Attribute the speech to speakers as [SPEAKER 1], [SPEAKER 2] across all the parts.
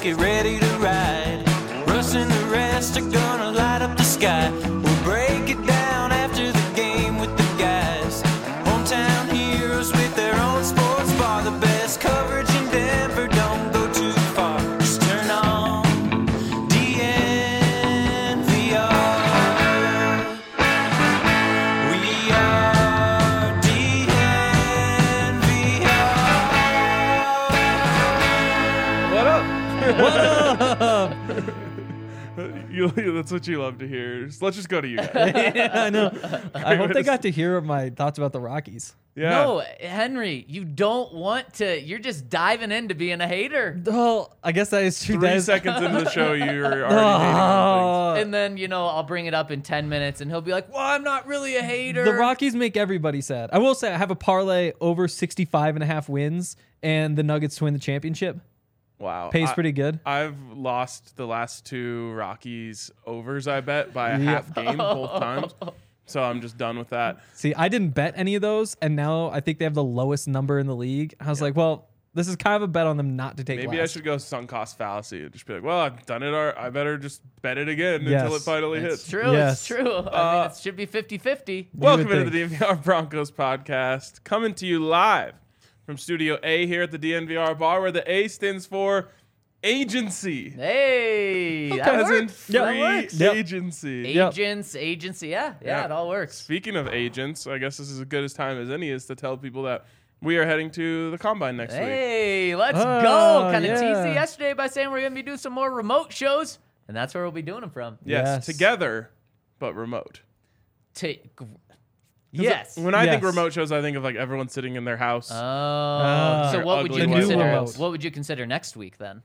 [SPEAKER 1] get ready to ride. Russ and the rest are gonna light up the sky. We'll break it down after the game with the guys. Hometown heroes with their own sports bar. The best coverage in Denver, don't go too far. Just turn on DNVR. We are DNVR.
[SPEAKER 2] What up?
[SPEAKER 3] What up?
[SPEAKER 2] That's what you love to hear. So let's just go to you guys.
[SPEAKER 3] Yeah, I know. I hope
[SPEAKER 2] way
[SPEAKER 3] they
[SPEAKER 2] to
[SPEAKER 3] got to hear my thoughts about the Rockies.
[SPEAKER 2] Yeah.
[SPEAKER 4] No, Henry, you don't want to. You're just diving into being a hater.
[SPEAKER 3] Well, I guess that is true.
[SPEAKER 2] 3 seconds into the show, you're already hating on
[SPEAKER 4] And then, I'll bring it up in 10 minutes and he'll be like, well, I'm not really a hater.
[SPEAKER 3] The Rockies make everybody sad. I will say I have a parlay over 65.5 wins, and the Nuggets to win the championship.
[SPEAKER 2] things. Wow.
[SPEAKER 3] Pays pretty good.
[SPEAKER 2] I've lost the last 2 Rockies overs, I bet, by a
[SPEAKER 3] Yep.
[SPEAKER 2] half game both times. So I'm just done with that.
[SPEAKER 3] See, I didn't bet any of those, and now I think they have the lowest number in the league. I was like, well, this is kind of a bet on them not to take
[SPEAKER 2] Maybe
[SPEAKER 3] last.
[SPEAKER 2] I should go sunk cost fallacy and just be like, well, I've done it. I better just bet it again
[SPEAKER 3] Yes.
[SPEAKER 2] until it finally
[SPEAKER 4] It's
[SPEAKER 2] hits.
[SPEAKER 4] true.
[SPEAKER 3] Yes.
[SPEAKER 4] It's true. I mean, it should be 50-50.
[SPEAKER 2] Welcome
[SPEAKER 3] would
[SPEAKER 2] into the DNVR Broncos podcast, coming to you live from Studio A here at the DNVR bar, where the A stands for agency.
[SPEAKER 4] Hey, that
[SPEAKER 2] As in
[SPEAKER 4] works.
[SPEAKER 2] free
[SPEAKER 4] That works.
[SPEAKER 3] Yep.
[SPEAKER 2] agency.
[SPEAKER 3] Yep.
[SPEAKER 4] Agency. Yeah,
[SPEAKER 2] Yeah.
[SPEAKER 4] it all works.
[SPEAKER 2] Speaking of agents, I guess this is as good a time as any is to tell people that we are heading to the Combine next week.
[SPEAKER 4] Hey, let's
[SPEAKER 3] Oh,
[SPEAKER 4] go. Kind of
[SPEAKER 3] yeah.
[SPEAKER 4] teased it yesterday by saying we're going to be doing some more remote shows, and that's where we'll be doing them from.
[SPEAKER 2] Yes,
[SPEAKER 3] Yes.
[SPEAKER 2] together, but remote.
[SPEAKER 4] Yes.
[SPEAKER 2] When I think
[SPEAKER 3] Yes.
[SPEAKER 2] remote shows, I think of like everyone sitting in their house.
[SPEAKER 4] So what would
[SPEAKER 2] ugly
[SPEAKER 4] you
[SPEAKER 2] white
[SPEAKER 4] consider?
[SPEAKER 2] walls.
[SPEAKER 4] What would you consider next week then?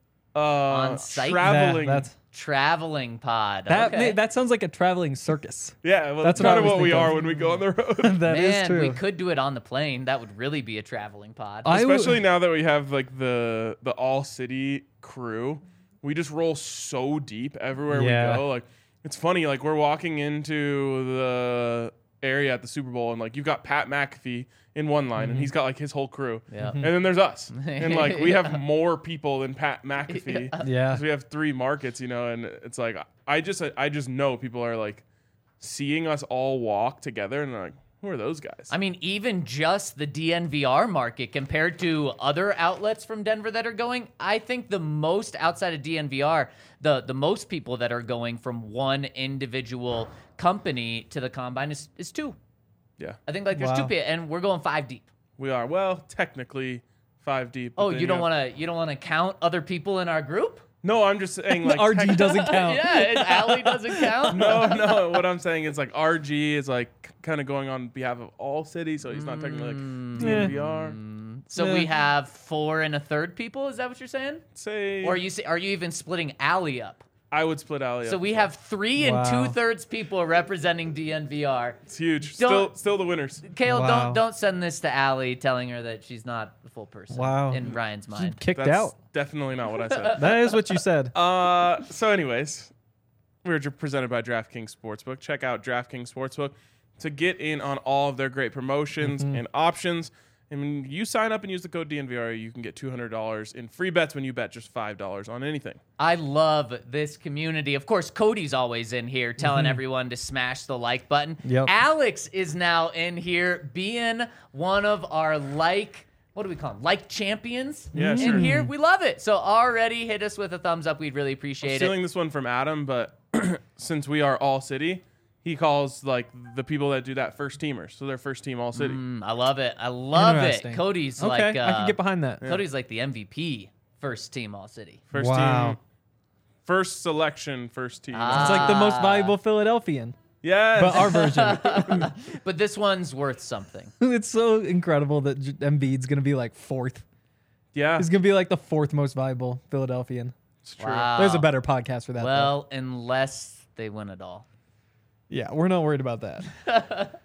[SPEAKER 4] site?
[SPEAKER 2] Traveling.
[SPEAKER 3] That's
[SPEAKER 4] Traveling pod.
[SPEAKER 3] that.
[SPEAKER 4] Okay.
[SPEAKER 3] That sounds like a traveling circus.
[SPEAKER 2] yeah, well,
[SPEAKER 3] That's
[SPEAKER 2] that's
[SPEAKER 3] what I
[SPEAKER 2] kind of
[SPEAKER 3] was
[SPEAKER 2] what we
[SPEAKER 3] thinking.
[SPEAKER 2] are when we go on the road.
[SPEAKER 3] That is
[SPEAKER 4] Man,
[SPEAKER 3] true.
[SPEAKER 4] we could do it on the plane. That would really be a traveling pod.
[SPEAKER 2] Especially now that we have like the all city crew, we just roll so deep everywhere
[SPEAKER 3] Yeah.
[SPEAKER 2] we go. Like it's funny, like we're walking into the area at the Super Bowl and like you've got Pat McAfee in one line and he's got like his whole crew.
[SPEAKER 4] Yeah.
[SPEAKER 2] And then there's us. And like we have more people than Pat McAfee.
[SPEAKER 3] Yeah.
[SPEAKER 2] 'Cause we have 3 markets, and it's like I just know people are like seeing us all walk together and they're like, who are those guys?
[SPEAKER 4] I mean, even just the DNVR market compared to other outlets from Denver that are going, I think the most outside of DNVR, the most people that are going from one individual company to the Combine is 2.
[SPEAKER 2] Yeah.
[SPEAKER 4] I think like there's 2
[SPEAKER 3] Wow.
[SPEAKER 4] people, and we're going 5 deep.
[SPEAKER 2] We are. Well, technically 5 deep. but
[SPEAKER 4] Oh,
[SPEAKER 2] then
[SPEAKER 4] you don't
[SPEAKER 2] have-
[SPEAKER 4] want to count other people in our group?
[SPEAKER 2] No, I'm just saying like
[SPEAKER 3] RG doesn't count.
[SPEAKER 4] Yeah, and Allie doesn't count.
[SPEAKER 2] No. What I'm saying is like RG is like kind of going on behalf of all cities, so he's not technically like DNVR.
[SPEAKER 4] So
[SPEAKER 3] Yeah.
[SPEAKER 4] we have 4 1/3 people. Is that what you're saying?
[SPEAKER 2] Say,
[SPEAKER 4] Or are you even splitting Allie up?
[SPEAKER 2] I would split Allie.
[SPEAKER 4] So
[SPEAKER 2] up.
[SPEAKER 4] we have 3
[SPEAKER 3] Wow.
[SPEAKER 4] 2/3 people representing DNVR.
[SPEAKER 2] It's huge.
[SPEAKER 4] Don't-
[SPEAKER 2] Still the winners.
[SPEAKER 4] Kale,
[SPEAKER 3] Wow.
[SPEAKER 4] don't send this to Allie telling her that she's not a full person.
[SPEAKER 3] Wow.
[SPEAKER 4] In Ryan's mind.
[SPEAKER 3] Kicked
[SPEAKER 2] That's
[SPEAKER 3] out.
[SPEAKER 2] definitely not what I said.
[SPEAKER 3] That is what you said.
[SPEAKER 2] So anyways, we're presented by DraftKings Sportsbook. Check out DraftKings Sportsbook to get in on all of their great promotions and options. And when you sign up and use the code DNVR, you can get $200 in free bets when you bet just $5 on anything.
[SPEAKER 4] I love this community. Of course, Cody's always in here telling everyone to smash the like button.
[SPEAKER 3] Yep.
[SPEAKER 4] Alex is now in here being one of our what do we call them? Like champions
[SPEAKER 2] Yeah,
[SPEAKER 4] in
[SPEAKER 2] sure.
[SPEAKER 4] here. We love it. So already hit us with a thumbs up. We'd really appreciate it.
[SPEAKER 2] Stealing this one from Adam, but since we are all city, he calls like the people that do that first teamers. So they're first team all city.
[SPEAKER 4] I love it. I love it.
[SPEAKER 3] Interesting.
[SPEAKER 4] Cody's
[SPEAKER 3] Okay,
[SPEAKER 4] like
[SPEAKER 3] I can get behind that.
[SPEAKER 4] Cody's like the MVP first team all city.
[SPEAKER 2] First
[SPEAKER 3] Wow.
[SPEAKER 2] team, first selection, first team.
[SPEAKER 3] It's like the most valuable Philadelphian,
[SPEAKER 2] Yes.
[SPEAKER 3] but our version.
[SPEAKER 4] But this one's worth something.
[SPEAKER 3] It's so incredible that Embiid's going to be like 4th.
[SPEAKER 2] yeah,
[SPEAKER 3] He's going to be like the 4th most valuable Philadelphian.
[SPEAKER 2] it's true.
[SPEAKER 4] Wow.
[SPEAKER 3] There's a better podcast for that. though.
[SPEAKER 4] Well, unless they win it all.
[SPEAKER 3] Yeah, we're not worried about that.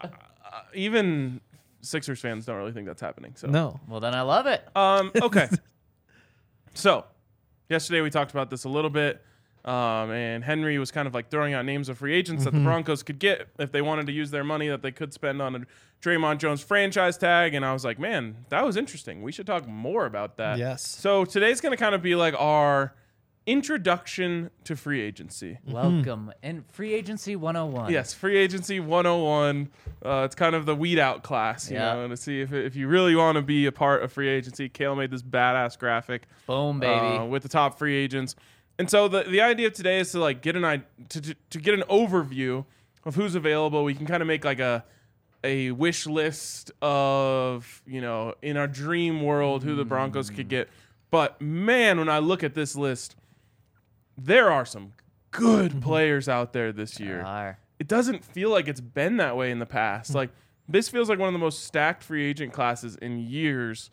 [SPEAKER 2] Even Sixers fans don't really think that's happening. So
[SPEAKER 3] No.
[SPEAKER 4] Well, then I love it.
[SPEAKER 2] Okay. So, yesterday we talked about this a little bit. And Henry was kind of like throwing out names of free agents that the Broncos could get if they wanted to use their money that they could spend on a Draymond Jones franchise tag. And I was like, man, that was interesting. We should talk more about that.
[SPEAKER 3] Yes.
[SPEAKER 2] So today's going to kind of be like our introduction to free agency.
[SPEAKER 4] Welcome and Free Agency 101.
[SPEAKER 2] Yes, Free Agency 101. It's kind of the weed out class, you know, to see if you really want to be a part of free agency. Kale made this badass graphic.
[SPEAKER 4] Boom, baby.
[SPEAKER 2] With the top free agents. And so the idea of today is to like get to get an overview of who's available. We can kind of make like a wish list of, you know, in our dream world who the Broncos could get. But man, when I look at this list, there are some good players out there this year. It doesn't feel like it's been that way in the past. Like this feels like one of the most stacked free agent classes in years.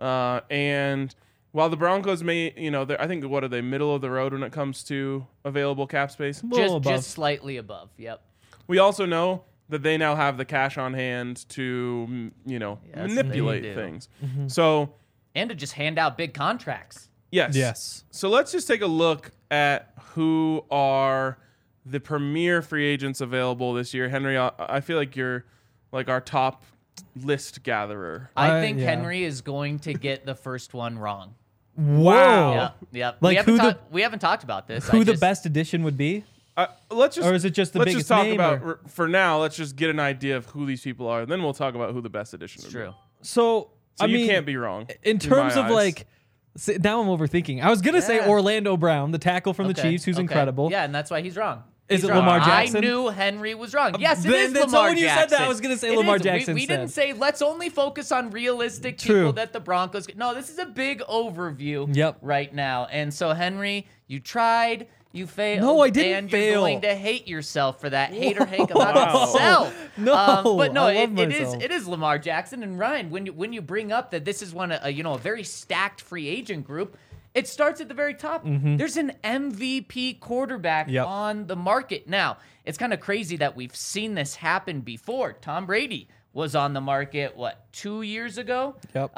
[SPEAKER 2] And while the Broncos may, you know, I think what are they, middle of the road when it comes to available cap space?
[SPEAKER 4] Just slightly above. Yep.
[SPEAKER 2] We also know that they now have the cash on hand to, you know, manipulate things. So
[SPEAKER 4] and to just hand out big contracts.
[SPEAKER 3] Yes.
[SPEAKER 2] So let's just take a look at who are the premier free agents available this year. Henry, I feel like you're like our top list gatherer.
[SPEAKER 4] I think Henry is going to get the first one wrong.
[SPEAKER 3] Wow.
[SPEAKER 4] Yep.
[SPEAKER 3] Like
[SPEAKER 4] we haven't talked about this.
[SPEAKER 3] Who the best addition would be?
[SPEAKER 2] Let's just,
[SPEAKER 3] or is it just the
[SPEAKER 2] let's
[SPEAKER 3] biggest
[SPEAKER 2] just talk
[SPEAKER 3] name,
[SPEAKER 2] about for now. Let's just get an idea of who these people are, and then we'll talk about who the best addition is.
[SPEAKER 4] True.
[SPEAKER 3] So I
[SPEAKER 2] you
[SPEAKER 3] mean,
[SPEAKER 2] can't be wrong.
[SPEAKER 3] In terms
[SPEAKER 2] my
[SPEAKER 3] of
[SPEAKER 2] eyes.
[SPEAKER 3] like, now I'm overthinking. I was gonna say Orlando Brown, the tackle from the Chiefs, who's incredible.
[SPEAKER 4] Yeah, and that's why he's wrong.
[SPEAKER 3] Is
[SPEAKER 4] He's
[SPEAKER 3] it
[SPEAKER 4] wrong.
[SPEAKER 3] Lamar Jackson?
[SPEAKER 4] I knew Henry was wrong. Yes, it
[SPEAKER 3] Then-
[SPEAKER 4] is
[SPEAKER 3] so
[SPEAKER 4] Lamar
[SPEAKER 3] when you
[SPEAKER 4] Jackson.
[SPEAKER 3] said that, I was gonna say
[SPEAKER 4] It
[SPEAKER 3] Lamar
[SPEAKER 4] is.
[SPEAKER 3] Jackson
[SPEAKER 4] We didn't say let's only focus on realistic
[SPEAKER 3] True.
[SPEAKER 4] people that the Broncos get. No, this is a big overview right now. And so, Henry, you tried. You failed.
[SPEAKER 3] No, I didn't
[SPEAKER 4] and
[SPEAKER 3] fail.
[SPEAKER 4] you're going to hate yourself for that. Hater hate about himself.
[SPEAKER 3] No,
[SPEAKER 4] but no,
[SPEAKER 3] I love
[SPEAKER 4] it is
[SPEAKER 3] myself.
[SPEAKER 4] it is Lamar Jackson. And Ryan, when you bring up that this is a very stacked free agent group, it starts at the very top. There's an MVP quarterback on the market. Now, it's kind of crazy that we've seen this happen before. Tom Brady was on the market, 2 years ago?
[SPEAKER 3] Yep.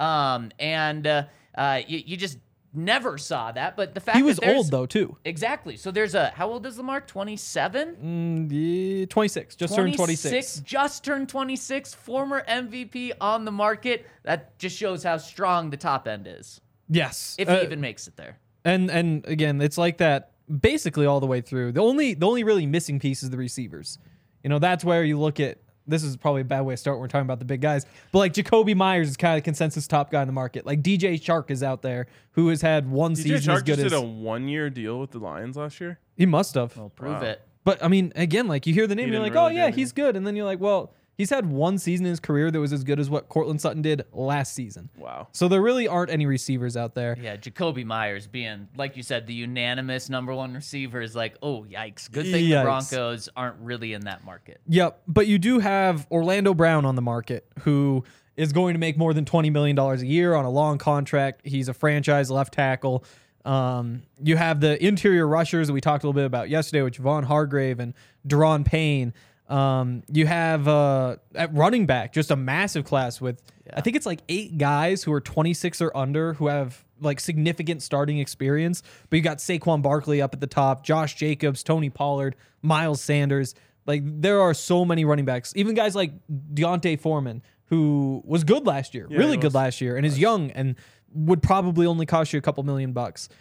[SPEAKER 4] You just never saw that. But the fact
[SPEAKER 3] He was
[SPEAKER 4] that there's-
[SPEAKER 3] old though too.
[SPEAKER 4] Exactly. So there's how old is Lamar? 27?
[SPEAKER 3] 26. Just turned 26.
[SPEAKER 4] Just turned 26. Former MVP on the market. That just shows how strong the top end is.
[SPEAKER 3] Yes.
[SPEAKER 4] If he even makes it there.
[SPEAKER 3] And again, it's like that basically all the way through. The only really missing piece is the receivers. You know, that's where you look at. This is probably a bad way to start when we're talking about the big guys. But like Jacoby Myers is kind of the consensus top guy in the market. Like DJ Chark is out there who has had one
[SPEAKER 2] DJ
[SPEAKER 3] season
[SPEAKER 2] Chark
[SPEAKER 3] as good
[SPEAKER 2] just
[SPEAKER 3] as
[SPEAKER 2] did a 1 year deal with the Lions last year.
[SPEAKER 3] he must have.
[SPEAKER 4] Well, prove it.
[SPEAKER 3] But I mean, again, like you hear the name,
[SPEAKER 2] He
[SPEAKER 3] you're
[SPEAKER 2] didn't
[SPEAKER 3] like, oh
[SPEAKER 2] really do
[SPEAKER 3] yeah,
[SPEAKER 2] anything.
[SPEAKER 3] he's good, and then you're like, well, he's had one season in his career that was as good as what Cortland Sutton did last season.
[SPEAKER 2] Wow.
[SPEAKER 3] So there really aren't any receivers out there.
[SPEAKER 4] Yeah, Jacoby Myers being, like you said, the unanimous number one receiver is like, oh, yikes. Good thing the
[SPEAKER 3] Yikes.
[SPEAKER 4] Broncos aren't really in that market.
[SPEAKER 3] Yep, but you do have Orlando Brown on the market, who is going to make more than $20 million a year on a long contract. He's a franchise left tackle. You have the interior rushers that we talked a little bit about yesterday with Javon Hargrave and Deron Payne. You have at running back just a massive class with I think it's like 8 guys who are 26 or under who have like significant starting experience. But you got Saquon Barkley up at the top, Josh Jacobs, Tony Pollard, Miles Sanders. Like there are so many running backs. Even guys like Deontay Foreman, who was good last year, really good last year, and is young and would probably only cost you a couple $1 million.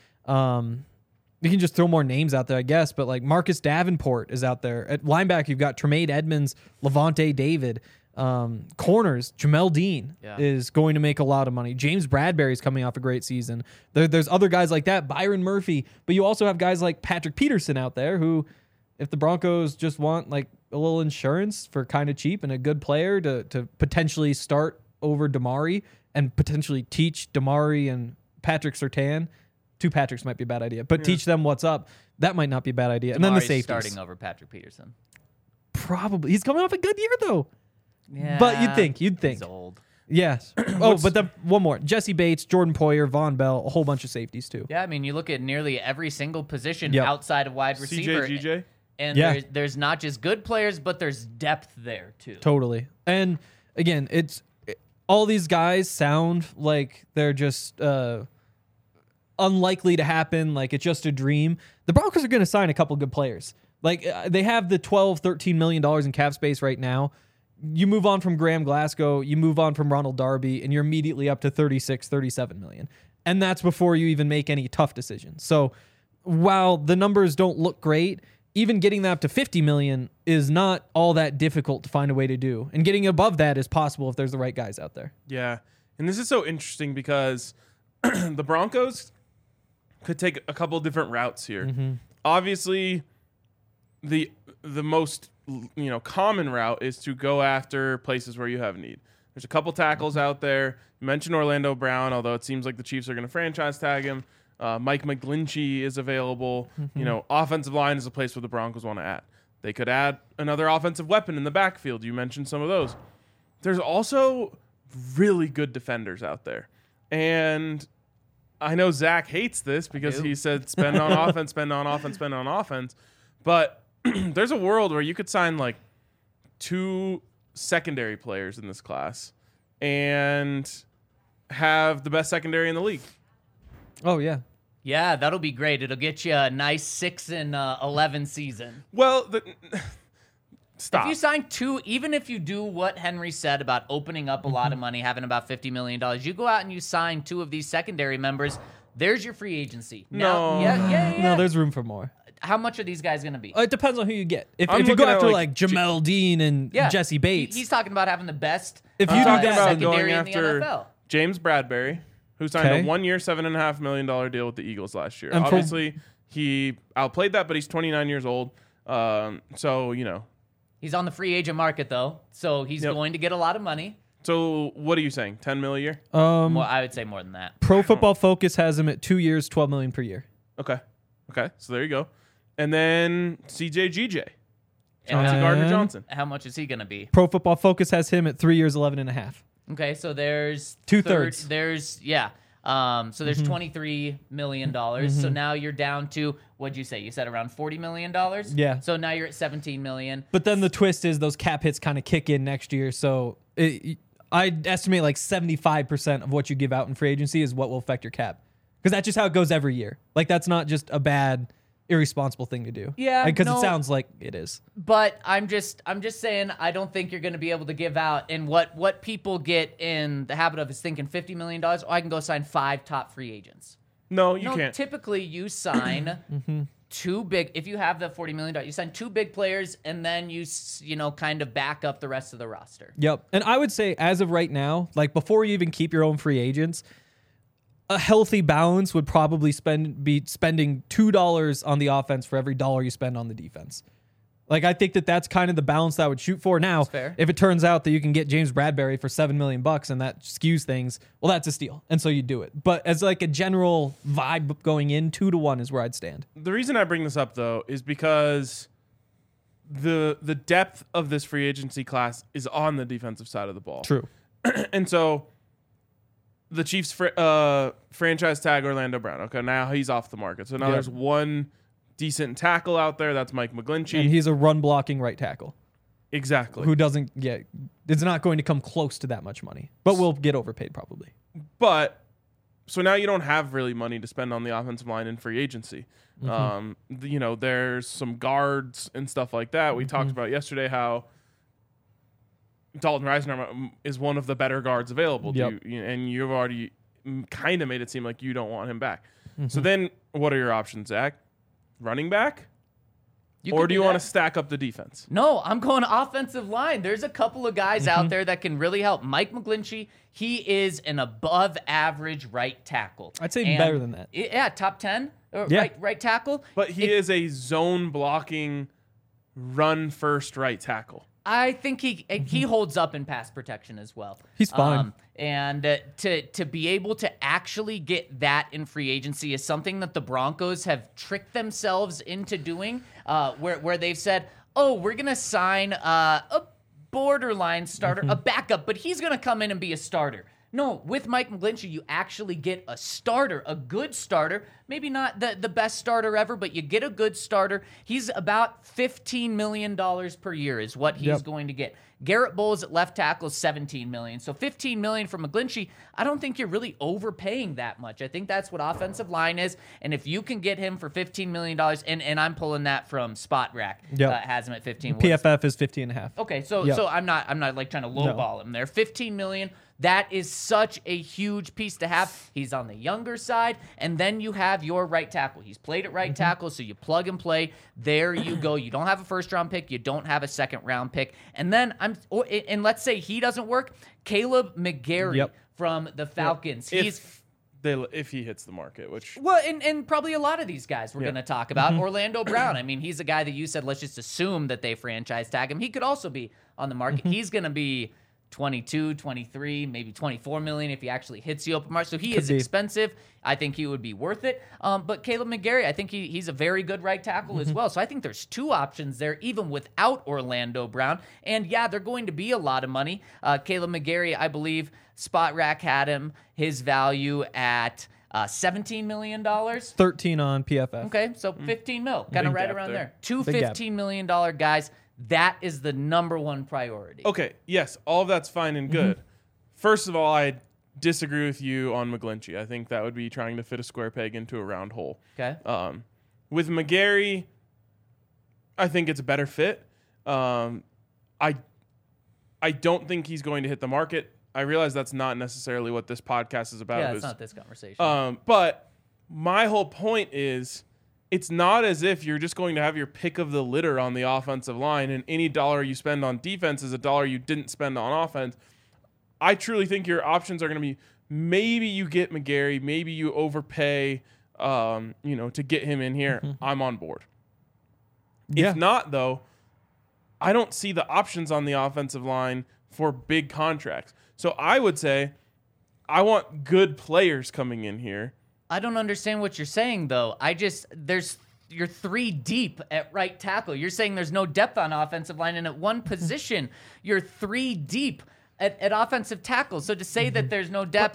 [SPEAKER 3] You can just throw more names out there, I guess, but like Marcus Davenport is out there. At linebacker, you've got Tremaine Edmonds, Levante David. Corners, Jamel Dean is going to make a lot of money. James Bradbury's coming off a great season. There's other guys like that, Byron Murphy, but you also have guys like Patrick Peterson out there who, if the Broncos just want like a little insurance for kind of cheap and a good player to potentially start over Damari and potentially teach Damari and Patrick Surtain. 2 Patricks might be a bad idea, but teach them what's up. That might not be a bad idea. And then the
[SPEAKER 4] Damari's
[SPEAKER 3] safeties.
[SPEAKER 4] starting over Patrick Peterson.
[SPEAKER 3] Probably. He's coming off a good year, though.
[SPEAKER 4] Yeah,
[SPEAKER 3] But you'd think.
[SPEAKER 4] He's old.
[SPEAKER 3] Yes. But then one more. Jesse Bates, Jordan Poyer, Von Bell, a whole bunch of safeties, too.
[SPEAKER 4] Yeah, I mean, you look at nearly every single position
[SPEAKER 3] Yep.
[SPEAKER 4] outside of wide receiver.
[SPEAKER 2] CJ,
[SPEAKER 4] And
[SPEAKER 3] Yeah.
[SPEAKER 4] there's not just good players, but there's depth there, too.
[SPEAKER 3] Totally. And again, all these guys sound like they're just unlikely to happen, like it's just a dream, the Broncos are going to sign a couple good players. Like they have the $12-13 million in cap space right now. You move on from Graham Glasgow, you move on from Ronald Darby, and you're immediately up to $36-37 million. And that's before you even make any tough decisions. So while the numbers don't look great, even getting that up to $50 million is not all that difficult to find a way to do. And getting above that is possible if there's the right guys out there.
[SPEAKER 2] Yeah. And this is so interesting because the Broncos could take a couple different routes here. Obviously, the most common route is to go after places where you have need. There's a couple tackles out there. You mentioned Orlando Brown, although it seems like the Chiefs are going to franchise tag him. Mike McGlinchey is available. Offensive line is a place where the Broncos want to add. They could add another offensive weapon in the backfield. You mentioned some of those. There's also really good defenders out there. And I know Zach hates this because he said spend on offense, spend on offense, spend on offense. But there's a world where you could sign like 2 secondary players in this class and have the best secondary in the league.
[SPEAKER 3] Oh, yeah.
[SPEAKER 4] Yeah, that'll be great. It'll get you a nice 6-11 season.
[SPEAKER 2] Well, stop.
[SPEAKER 4] If you sign 2, even if you do what Henry said about opening up a lot of money, having about $50 million, you go out and you sign 2 of these secondary members, there's your free agency.
[SPEAKER 2] No.
[SPEAKER 3] No, there's room for more.
[SPEAKER 4] How much are these guys going to be?
[SPEAKER 3] It depends on who you get. If
[SPEAKER 2] I'm
[SPEAKER 3] you go
[SPEAKER 2] looking at,
[SPEAKER 3] after
[SPEAKER 2] like,
[SPEAKER 3] Jamel Dean and Jesse Bates,
[SPEAKER 4] He's talking about having the best
[SPEAKER 3] If you do that-
[SPEAKER 4] secondary
[SPEAKER 2] going
[SPEAKER 4] in the
[SPEAKER 2] after
[SPEAKER 4] NFL.
[SPEAKER 2] James Bradbury, who signed
[SPEAKER 3] Okay.
[SPEAKER 2] a 1-year, $7.5 million deal with the Eagles last year.
[SPEAKER 3] And for-
[SPEAKER 2] Obviously, he outplayed that, but he's 29 years old. So,
[SPEAKER 4] He's on the free agent market, though, so he's
[SPEAKER 2] Yep.
[SPEAKER 4] going to get a lot of money.
[SPEAKER 2] So what are you saying? $10 million a year?
[SPEAKER 4] More, I would say more than that.
[SPEAKER 3] Pro Football Focus has him at 2 years, $12 million per year.
[SPEAKER 2] Okay. So there you go. And then CJGJ.
[SPEAKER 4] And
[SPEAKER 2] Chauncey
[SPEAKER 3] how-
[SPEAKER 2] Gardner-Johnson.
[SPEAKER 4] How much is he going to be?
[SPEAKER 3] Pro Football Focus has him at 3 years, 11.5.
[SPEAKER 4] Okay, so there's
[SPEAKER 3] 2/3.
[SPEAKER 4] There's so there's $23 million. So now you're down to, what'd you say? You said around $40 million.
[SPEAKER 3] Yeah.
[SPEAKER 4] So now you're at $17 million.
[SPEAKER 3] But then the twist is those cap hits kind of kick in next year. So I'd estimate like 75% of what you give out in free agency is what will affect your cap. Because that's just how it goes every year. Like that's not just a bad, irresponsible thing to do.
[SPEAKER 4] Yeah,
[SPEAKER 3] Because
[SPEAKER 4] no.
[SPEAKER 3] it sounds like it is.
[SPEAKER 4] But I'm just saying I don't think you're going to be able to give out. And what people get in the habit of is thinking $50 million. Oh, I can go sign 5 top free agents.
[SPEAKER 2] No, you can't.
[SPEAKER 4] Typically you sign 2 big. If you have the $40 million, you sign 2 big players, and then you kind of back up the rest of the roster.
[SPEAKER 3] Yep. And I would say as of right now, like before you even keep your own free agents, a healthy balance would probably be spending $2 on the offense for every dollar you spend on the defense. Like I think that's kind of the balance that I would shoot for. Now,
[SPEAKER 4] fair.
[SPEAKER 3] if it turns out that you can get James Bradbury for $7 million and that skews things, well, that's a steal, and so you do it. But as like a general vibe going in, 2-1 is where I'd stand.
[SPEAKER 2] The reason I bring this up, though, is because the depth of this free agency class is on the defensive side of the ball.
[SPEAKER 3] True.
[SPEAKER 2] And so the Chiefs franchise tag Orlando Brown. Okay, now he's off the market. So now
[SPEAKER 3] Yep.
[SPEAKER 2] there's one decent tackle out there. That's Mike McGlinchey.
[SPEAKER 3] And he's a run blocking right tackle
[SPEAKER 2] Exactly.
[SPEAKER 3] who doesn't get. It's not going to come close to that much money, but will get overpaid probably.
[SPEAKER 2] But so now you don't have really money to spend on the offensive line in free agency. There's some guards and stuff like that. We talked about yesterday how Dalton Risner is one of the better guards available.
[SPEAKER 3] Yep.
[SPEAKER 2] And you've already kind of made it seem like you don't want him back. So then what are your options, Zach? Running back? Or do you want to stack up the defense?
[SPEAKER 4] No, I'm going offensive line. There's a couple of guys out there that can really help. Mike McGlinchey, he is an above average right tackle.
[SPEAKER 3] I'd say even better than that.
[SPEAKER 4] Yeah, top 10
[SPEAKER 3] Yeah.
[SPEAKER 4] right tackle.
[SPEAKER 2] But he is a zone blocking, run first right tackle.
[SPEAKER 4] I think he holds up in pass protection as well.
[SPEAKER 3] He's fine.
[SPEAKER 4] And to be able to actually get that in free agency is something that the Broncos have tricked themselves into doing, where they've said, oh, we're going to sign a borderline starter, a backup, but he's going to come in and be a starter. No, with Mike McGlinchey, you actually get a starter, a good starter. Maybe not the best starter ever, but you get a good starter. He's about $15 million per year is what he's going to get. Garrett Bowles at left tackle is $17 million. So $15 million from McGlinchey, I don't think you're really overpaying that much. I think that's what offensive line is. And if you can get him for $15 million, and I'm pulling that from Spot Rack, has him at 15.
[SPEAKER 3] PFF is 15.5.
[SPEAKER 4] Okay, so I'm not like trying to lowball him there. $15 million. That is such a huge piece to have. He's on the younger side, and then you have your right tackle. He's played at right tackle, so you plug and play. There you go. You don't have a first-round pick. You don't have a second-round pick. And then and let's say he doesn't work. Caleb McGarry from the Falcons.
[SPEAKER 2] If he hits the market, which
[SPEAKER 4] and probably a lot of these guys we're going to talk about. Orlando Brown. I mean, he's a guy that you said let's just assume that they franchise tag him. He could also be on the market. He's going to be 22, 23, maybe 24 million if he actually hits the open market. So he is expensive. I think he would be worth it. But Caleb McGarry, I think he's a very good right tackle as well. So I think there's two options there, even without Orlando Brown. And yeah, they're going to be a lot of money. Caleb McGarry, I believe Spot Rack had his value at $17 million.
[SPEAKER 3] 13 on PFF.
[SPEAKER 4] Okay, so 15 mil, kind of right around there. Two $15 million guys. That is the number one priority.
[SPEAKER 2] Okay, yes, all of that's fine and good. First of all, I disagree with you on McGlinchey. I think that would be trying to fit a square peg into a round hole.
[SPEAKER 4] Okay.
[SPEAKER 2] With McGarry, I think it's a better fit. I don't think he's going to hit the market. I realize that's not necessarily what this podcast is about.
[SPEAKER 4] Yeah, it's not this conversation.
[SPEAKER 2] But my whole point is, it's not as if you're just going to have your pick of the litter on the offensive line, and any dollar you spend on defense is a dollar you didn't spend on offense. I truly think your options are going to be, maybe you get McGarry, maybe you overpay, to get him in here. I'm on board. If not, though, I don't see the options on the offensive line for big contracts. So I would say I want good players coming in here.
[SPEAKER 4] I don't understand what you're saying, though. You're 3 deep at right tackle. You're saying there's no depth on offensive line, and at one position, you're 3 deep at offensive tackle. So to say that there's no depth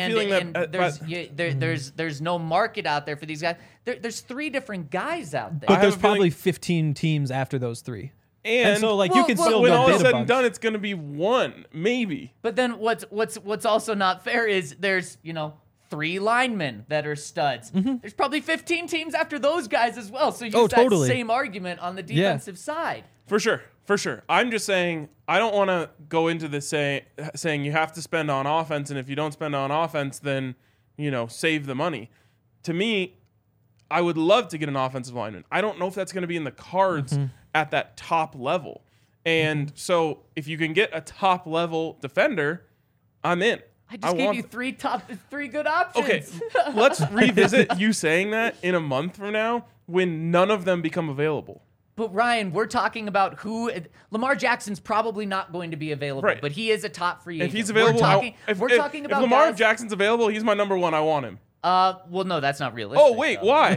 [SPEAKER 4] there's no market out there for these guys, there's 3 different guys out there.
[SPEAKER 3] But there's probably 15 teams after those 3.
[SPEAKER 2] And
[SPEAKER 3] so, you can still
[SPEAKER 2] when
[SPEAKER 3] go
[SPEAKER 2] all
[SPEAKER 3] bid
[SPEAKER 2] is
[SPEAKER 3] a
[SPEAKER 2] said
[SPEAKER 3] bunch.
[SPEAKER 2] and done, it's going to be 1, maybe.
[SPEAKER 4] But then what's also not fair is there's 3 linemen that are studs. There's probably 15 teams after those guys as well. So use that same argument on the defensive side.
[SPEAKER 2] For sure. I'm just saying, I don't want to go into this saying you have to spend on offense, and if you don't spend on offense, then, save the money. To me, I would love to get an offensive lineman. I don't know if that's going to be in the cards at that top level. And so if you can get a top level defender, I'm in.
[SPEAKER 4] I just gave you 3 good options.
[SPEAKER 2] Okay, let's revisit you saying that in a month from now when none of them become available.
[SPEAKER 4] But Ryan, we're talking about Lamar Jackson's probably not going to be available,
[SPEAKER 2] right.
[SPEAKER 4] but he is a top free agent.
[SPEAKER 2] If he's available,
[SPEAKER 4] if
[SPEAKER 2] Lamar Jackson's available, he's my number 1. I want him.
[SPEAKER 4] Well, no, that's not realistic.
[SPEAKER 2] Oh, wait, why?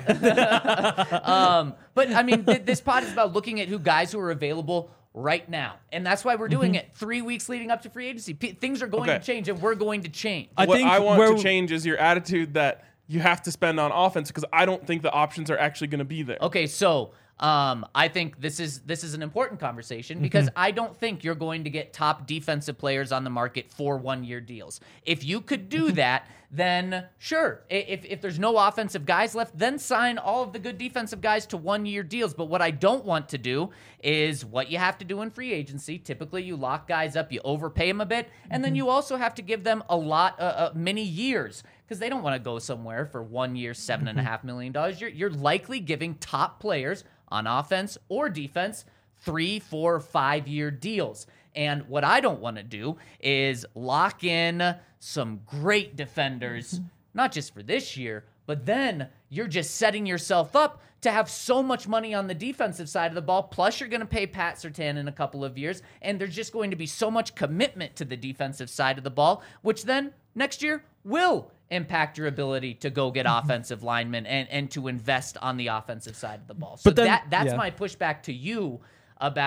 [SPEAKER 4] But I mean, this pod is about looking at guys who are available right now, and that's why we're doing it 3 weeks leading up to free agency. Things are going to change, and we're going to change.
[SPEAKER 2] What I want to change is your attitude that you have to spend on offense, because I don't think the options are actually going to be there.
[SPEAKER 4] Okay, so I think this is an important conversation because I don't think you're going to get top defensive players on the market for 1-year deals. If you could do that, then sure. If there's no offensive guys left, then sign all of the good defensive guys to 1-year deals. But what I don't want to do is what you have to do in free agency. Typically, you lock guys up, you overpay them a bit, and then you also have to give them a lot, many years, because they don't want to go somewhere for 1 year, $7.5 million. You're likely giving top players on offense or defense 3, 4, 5-year deals. And what I don't want to do is lock in some great defenders, not just for this year, but then you're just setting yourself up to have so much money on the defensive side of the ball. Plus, you're going to pay Pat Surtain in a couple of years, and there's just going to be so much commitment to the defensive side of the ball, which then next year will impact your ability to go get offensive linemen and to invest on the offensive side of the ball. So that's my pushback to you about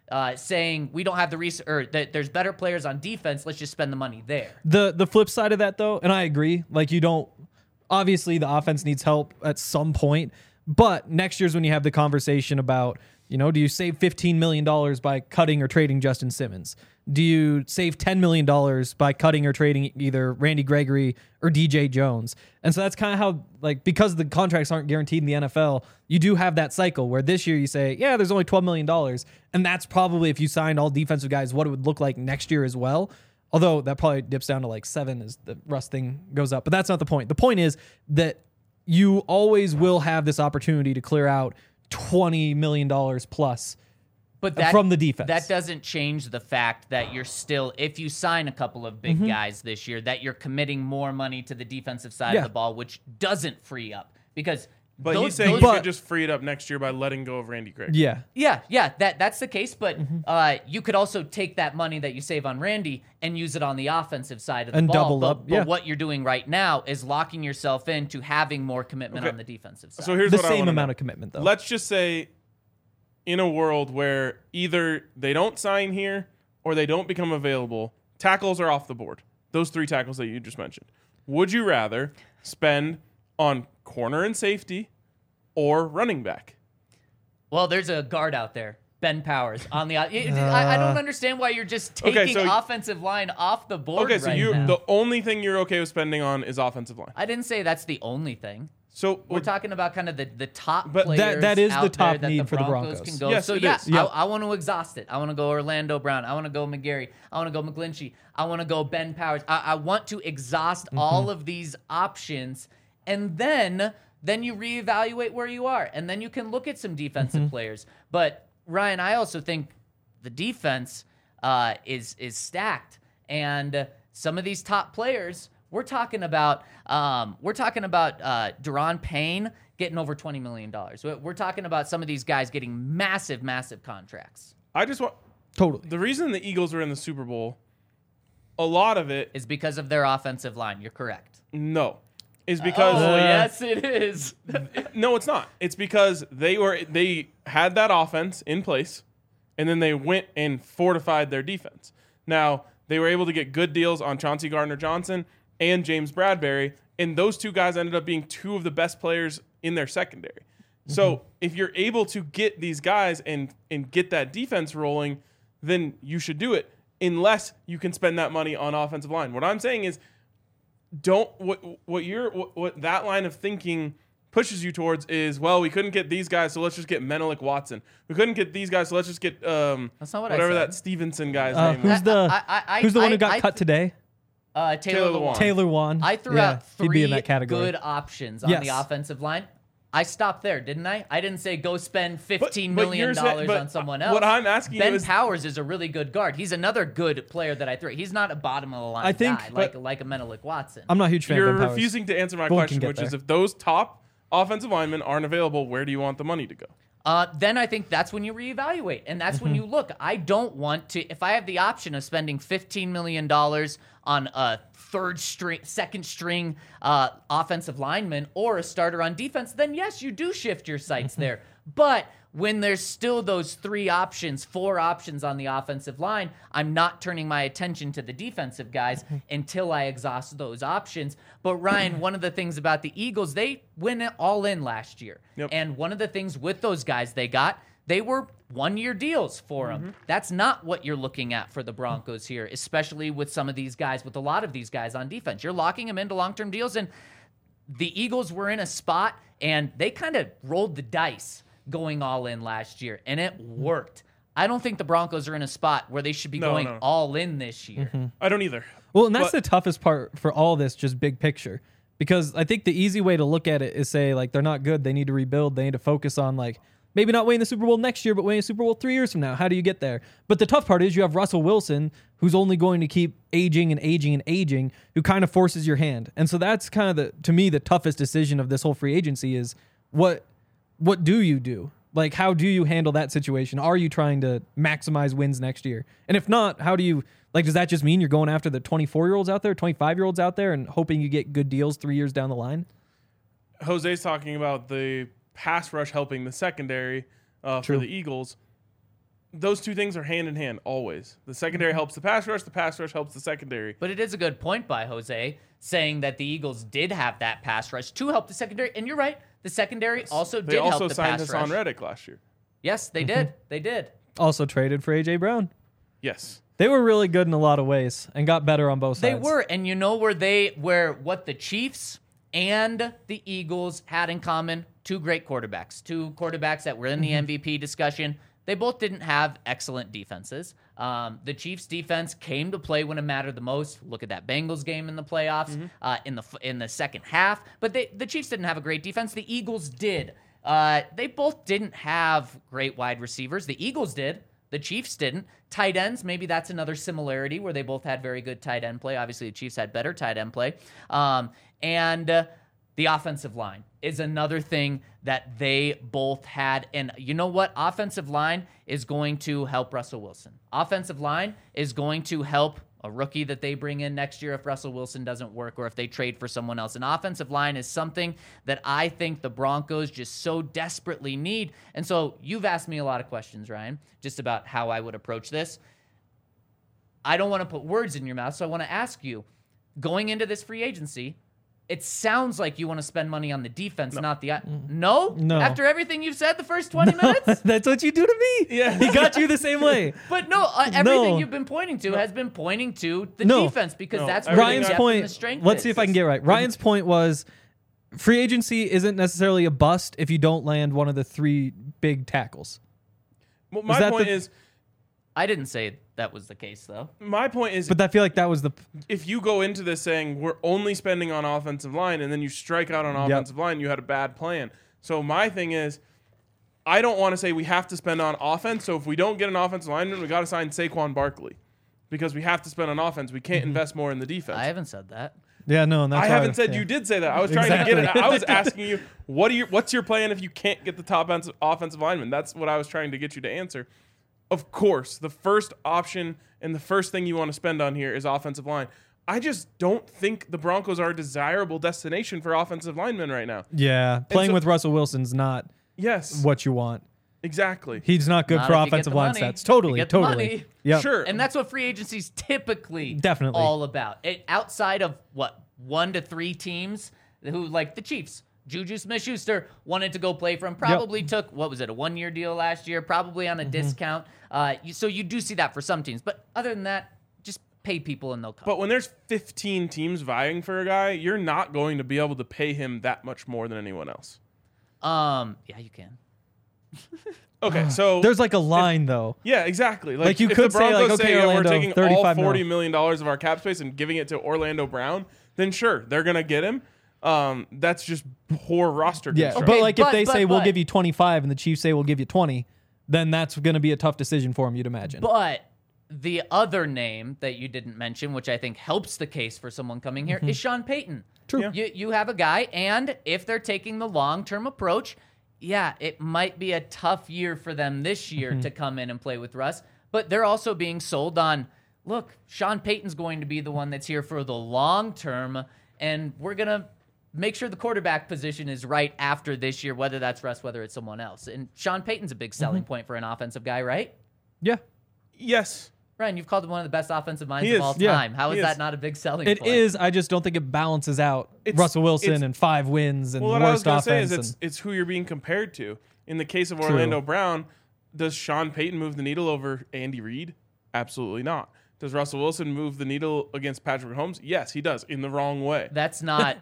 [SPEAKER 4] saying we don't have the or that there's better players on defense. Let's just spend the money there.
[SPEAKER 3] The flip side of that, though, and I agree, like you don't. Obviously, the offense needs help at some point, but next year's when you have the conversation about, do you save $15 million by cutting or trading Justin Simmons? Do you save $10 million by cutting or trading either Randy Gregory or DJ Jones? And so that's kind of how, like, because the contracts aren't guaranteed in the NFL, you do have that cycle where this year you say, yeah, there's only $12 million. And that's probably, if you signed all defensive guys, what it would look like next year as well. Although that probably dips down to like 7 as the Russ thing goes up. But that's not the point. The point is that you always will have this opportunity to clear out $20 million plus.
[SPEAKER 4] But that,
[SPEAKER 3] from the defense.
[SPEAKER 4] That doesn't change the fact that you're still, if you sign a couple of big guys this year, that you're committing more money to the defensive side of the ball, which doesn't free up.
[SPEAKER 2] But he's saying you could just free it up next year by letting go of Randy Gregory.
[SPEAKER 4] Yeah, that's the case. But you could also take that money that you save on Randy and use it on the offensive side of the
[SPEAKER 3] and
[SPEAKER 4] ball.
[SPEAKER 3] Double up.
[SPEAKER 4] But what you're doing right now is locking yourself into having more commitment on the defensive side.
[SPEAKER 2] So here's
[SPEAKER 3] the
[SPEAKER 2] what I
[SPEAKER 3] same
[SPEAKER 2] wanna
[SPEAKER 3] amount
[SPEAKER 2] know.
[SPEAKER 3] of commitment, though.
[SPEAKER 2] Let's just say, in a world where either they don't sign here or they don't become available, tackles are off the board. Those 3 tackles that you just mentioned. Would you rather spend on corner and safety or running back?
[SPEAKER 4] Well, there's a guard out there, Ben Powers, on the. I don't understand why you're just taking offensive line off the board.
[SPEAKER 2] Okay, so
[SPEAKER 4] now.
[SPEAKER 2] the only thing you're okay with spending on is offensive line.
[SPEAKER 4] I didn't say that's the only thing.
[SPEAKER 2] So
[SPEAKER 4] we're talking about kind of the top
[SPEAKER 2] but
[SPEAKER 4] players
[SPEAKER 3] that is
[SPEAKER 4] out
[SPEAKER 3] the top
[SPEAKER 4] there
[SPEAKER 3] need
[SPEAKER 4] that
[SPEAKER 3] for the Broncos.
[SPEAKER 4] Can go.
[SPEAKER 2] Yes,
[SPEAKER 4] so
[SPEAKER 2] it
[SPEAKER 4] yeah,
[SPEAKER 2] is.
[SPEAKER 4] I want to exhaust it. I want to go Orlando Brown. I want to go McGarry. I want to go McGlinchey. I want to go Ben Powers. I want to exhaust all of these options, and then you reevaluate where you are, and then you can look at some defensive players. But Ryan, I also think the defense is stacked, and some of these top players. We're talking about Daron Payne getting over $20 million. We're talking about some of these guys getting massive, massive contracts.
[SPEAKER 2] I just want
[SPEAKER 3] Totally.
[SPEAKER 2] the reason the Eagles were in the Super Bowl, a lot of it
[SPEAKER 4] Is because of their offensive line. You're correct.
[SPEAKER 2] no, is because
[SPEAKER 4] Yes, it is.
[SPEAKER 2] no, it's not. It's because they had that offense in place, and then they went and fortified their defense. Now they were able to get good deals on Chauncey Gardner-Johnson and James Bradbury, and those 2 guys ended up being 2 of the best players in their secondary. So if you're able to get these guys and get that defense rolling, then you should do it, unless you can spend that money on offensive line. What I'm saying is, what that line of thinking pushes you towards is, well, we couldn't get these guys, so let's just get Menelik Watson. We couldn't get these guys, so let's just get
[SPEAKER 4] That's not what I
[SPEAKER 2] whatever
[SPEAKER 4] said.
[SPEAKER 2] that Stevenson guy's name
[SPEAKER 3] Who's
[SPEAKER 2] was.
[SPEAKER 3] the one who got cut today?
[SPEAKER 4] Taylor Lewan.
[SPEAKER 3] Taylor Lewan.
[SPEAKER 4] I threw
[SPEAKER 3] Yeah,
[SPEAKER 4] out
[SPEAKER 3] he'd
[SPEAKER 4] 3
[SPEAKER 3] be in that category.
[SPEAKER 4] good options on the offensive line. I stopped there, didn't I? I didn't say go spend $15 million on someone else.
[SPEAKER 2] What I'm asking
[SPEAKER 4] Ben
[SPEAKER 2] you is,
[SPEAKER 4] Powers is a really good guard. He's another good player that I threw. He's not a bottom of the line
[SPEAKER 3] I think-
[SPEAKER 4] guy like a Menelik Watson.
[SPEAKER 3] I'm not a huge fan
[SPEAKER 2] you're
[SPEAKER 3] of Ben Powers.
[SPEAKER 2] refusing to answer my
[SPEAKER 3] Bowen
[SPEAKER 2] question,
[SPEAKER 3] can get
[SPEAKER 2] which is,
[SPEAKER 3] there.
[SPEAKER 2] if those top offensive linemen aren't available, where do you want the money to go?
[SPEAKER 4] Then I think that's when you reevaluate, and that's when you look. I don't want to. If I have the option of spending $15 million on a second string offensive lineman or a starter on defense, then yes, you do shift your sights there. But when there's still those 4 options on the offensive line, I'm not turning my attention to the defensive guys until I exhaust those options. But Ryan, one of the things about the Eagles, they went all in last year.
[SPEAKER 2] Yep.
[SPEAKER 4] And one of the things with those guys they were 1-year deals for them. That's not what you're looking at for the Broncos here, especially with some of these guys, with a lot of these guys on defense. You're locking them into long-term deals, and the Eagles were in a spot, and they kind of rolled the dice going all in last year, and it worked. I don't think the Broncos are in a spot where they should be going all in this year.
[SPEAKER 2] I don't either.
[SPEAKER 3] Well, and that's the toughest part for all this, just big picture. Because I think the easy way to look at it is say, like, they're not good. They need to rebuild. They need to focus on, like, maybe not winning the Super Bowl next year, but winning the Super Bowl 3 years from now. How do you get there? But the tough part is you have Russell Wilson, who's only going to keep aging and aging and aging, who kind of forces your hand. And so that's kind of, to me, the toughest decision of this whole free agency is what do you do? Like, how do you handle that situation? Are you trying to maximize wins next year? And if not, how do you, like, does that just mean you're going after the 24-year-olds out there, 25-year-olds out there, and hoping you get good deals 3 years down the line?
[SPEAKER 2] Jose's talking about the pass rush helping the secondary for the Eagles. those two things are hand in hand always. The secondary helps the pass rush helps the secondary.
[SPEAKER 4] But it is a good point by Jose saying that the Eagles did have that pass rush to help the secondary. And you're right. The secondary also
[SPEAKER 2] They
[SPEAKER 4] did
[SPEAKER 2] also
[SPEAKER 4] help the
[SPEAKER 2] signed
[SPEAKER 4] pass
[SPEAKER 2] Hassan
[SPEAKER 4] rush.
[SPEAKER 2] Reddick last year.
[SPEAKER 4] Yes, they did. They did.
[SPEAKER 3] Also traded for A.J. Brown.
[SPEAKER 2] Yes.
[SPEAKER 3] They were really good in a lot of ways and got better on both
[SPEAKER 4] They
[SPEAKER 3] sides.
[SPEAKER 4] were. And you know where what the Chiefs and the Eagles had in common? Two great quarterbacks. Two quarterbacks that were in the MVP discussion. They both didn't have excellent defenses. The Chiefs' defense came to play when it mattered the most. Look at that Bengals game in the playoffs, in the second half. But the Chiefs didn't have a great defense. The Eagles did. They both didn't have great wide receivers. The Eagles did. The Chiefs didn't. Tight ends, maybe that's another similarity where they both had very good tight end play. Obviously, the Chiefs had better tight end play. And the offensive line is another thing that they both had. And you know what? Offensive line is going to help Russell Wilson. Offensive line is going to help a rookie that they bring in next year if Russell Wilson doesn't work or if they trade for someone else. An offensive line is something that I think the Broncos just so desperately need. And so you've asked me a lot of questions, Ryan, just about how I would approach this. I don't want to put words in your mouth, so I want to ask you, going into this free agency, it sounds like you want to spend money on the defense, not the... No?
[SPEAKER 3] No.
[SPEAKER 4] After everything you've said the first 20 minutes?
[SPEAKER 3] That's what you do to me.
[SPEAKER 2] Yeah.
[SPEAKER 3] He got you the same way.
[SPEAKER 4] But no, everything
[SPEAKER 3] No.
[SPEAKER 4] you've been pointing to has been pointing to the
[SPEAKER 3] No.
[SPEAKER 4] defense because
[SPEAKER 2] No.
[SPEAKER 4] that's where
[SPEAKER 2] Everything
[SPEAKER 3] Ryan's
[SPEAKER 4] the depth and
[SPEAKER 3] point.
[SPEAKER 4] the strength
[SPEAKER 3] Let's
[SPEAKER 4] is.
[SPEAKER 3] see if I can get it right. Ryan's point was free agency isn't necessarily a bust if you don't land one of the three big tackles.
[SPEAKER 2] Well, my
[SPEAKER 3] that
[SPEAKER 2] point
[SPEAKER 3] the-
[SPEAKER 2] is,
[SPEAKER 4] I didn't say that was the case, though.
[SPEAKER 3] But I feel like that was the.
[SPEAKER 2] if you go into this saying we're only spending on offensive line and then you strike out on offensive line, you had a bad plan. So my thing is, I don't want to say we have to spend on offense. So if we don't get an offensive lineman, we got to sign Saquon Barkley because we have to spend on offense. We can't invest more in the defense.
[SPEAKER 4] I haven't said that.
[SPEAKER 3] Yeah, no, and that's
[SPEAKER 2] I
[SPEAKER 3] why
[SPEAKER 2] haven't said
[SPEAKER 3] yeah.
[SPEAKER 2] you did say that. I was trying to get it. I was asking you, what's your plan if you can't get the top offensive lineman? That's what I was trying to get you to answer. Of course, the first option and the first thing you want to spend on here is offensive line. I just don't think the Broncos are a desirable destination for offensive linemen right now.
[SPEAKER 3] Yeah, playing
[SPEAKER 2] so-
[SPEAKER 3] with Russell Wilson's not
[SPEAKER 2] Yes,
[SPEAKER 3] what you want.
[SPEAKER 2] exactly.
[SPEAKER 3] He's not good
[SPEAKER 4] Not
[SPEAKER 3] for
[SPEAKER 4] if you get
[SPEAKER 3] offensive
[SPEAKER 4] the
[SPEAKER 3] line
[SPEAKER 4] money.
[SPEAKER 3] stats.
[SPEAKER 4] You
[SPEAKER 3] Totally,
[SPEAKER 4] get the
[SPEAKER 3] totally.
[SPEAKER 4] money.
[SPEAKER 3] Yeah,
[SPEAKER 2] Sure.
[SPEAKER 4] And that's what free agency is typically
[SPEAKER 3] Definitely.
[SPEAKER 4] all about. Outside of, 1 to 3 teams who, like the Chiefs, Juju Smith-Schuster wanted to go play for him, probably took, a 1-year deal last year, probably on a discount. So you do see that for some teams. But other than that, just pay people and they'll come.
[SPEAKER 2] But when there's 15 teams vying for a guy, you're not going to be able to pay him that much more than anyone else.
[SPEAKER 4] Yeah, you can.
[SPEAKER 2] Okay, so
[SPEAKER 3] there's like a line though.
[SPEAKER 2] yeah, exactly.
[SPEAKER 3] Like, you
[SPEAKER 2] if
[SPEAKER 3] could
[SPEAKER 2] the
[SPEAKER 3] say,
[SPEAKER 2] Broncos
[SPEAKER 3] like, okay,
[SPEAKER 2] say yeah, we're
[SPEAKER 3] Orlando,
[SPEAKER 2] taking all
[SPEAKER 3] $35
[SPEAKER 2] $40
[SPEAKER 3] mil.
[SPEAKER 2] million of our cap space and giving it to Orlando Brown, then sure, they're gonna get him. That's just poor roster
[SPEAKER 3] Yeah,
[SPEAKER 2] construction.
[SPEAKER 3] but like if
[SPEAKER 4] but-
[SPEAKER 3] they say we'll
[SPEAKER 4] but-
[SPEAKER 3] give you 25 and the Chiefs say we'll give you 20, then that's going to be a tough decision for him, you'd imagine.
[SPEAKER 4] But the other name that you didn't mention, which I think helps the case for someone coming here, is Sean Payton.
[SPEAKER 3] True.
[SPEAKER 2] Yeah.
[SPEAKER 4] You have a guy, and if they're taking the long-term approach, yeah, it might be a tough year for them this year to come in and play with Russ. But they're also being sold on, look, Sean Payton's going to be the one that's here for the long term, and we're going to make sure the quarterback position is right after this year, whether that's Russ, whether it's someone else. And Sean Payton's a big selling point for an offensive guy, right?
[SPEAKER 3] Yeah.
[SPEAKER 2] Yes.
[SPEAKER 4] Ryan, you've called him one of the best offensive minds
[SPEAKER 2] He
[SPEAKER 4] of
[SPEAKER 2] is.
[SPEAKER 4] all
[SPEAKER 3] Yeah.
[SPEAKER 4] time. How
[SPEAKER 2] He
[SPEAKER 4] is
[SPEAKER 2] is.
[SPEAKER 4] that not a big selling
[SPEAKER 3] It
[SPEAKER 4] point?
[SPEAKER 3] is. I just don't think it balances out
[SPEAKER 2] It's-
[SPEAKER 3] Russell Wilson
[SPEAKER 2] it's-
[SPEAKER 3] and 5 wins and
[SPEAKER 2] Well, what I was
[SPEAKER 3] worst
[SPEAKER 2] gonna say
[SPEAKER 3] offense.
[SPEAKER 2] is it's who you're being compared to. In the case of Orlando Brown, does Sean Payton move the needle over Andy Reid? Absolutely not. Does Russell Wilson move the needle against Patrick Mahomes? Yes, he does, in the wrong way.
[SPEAKER 4] That's not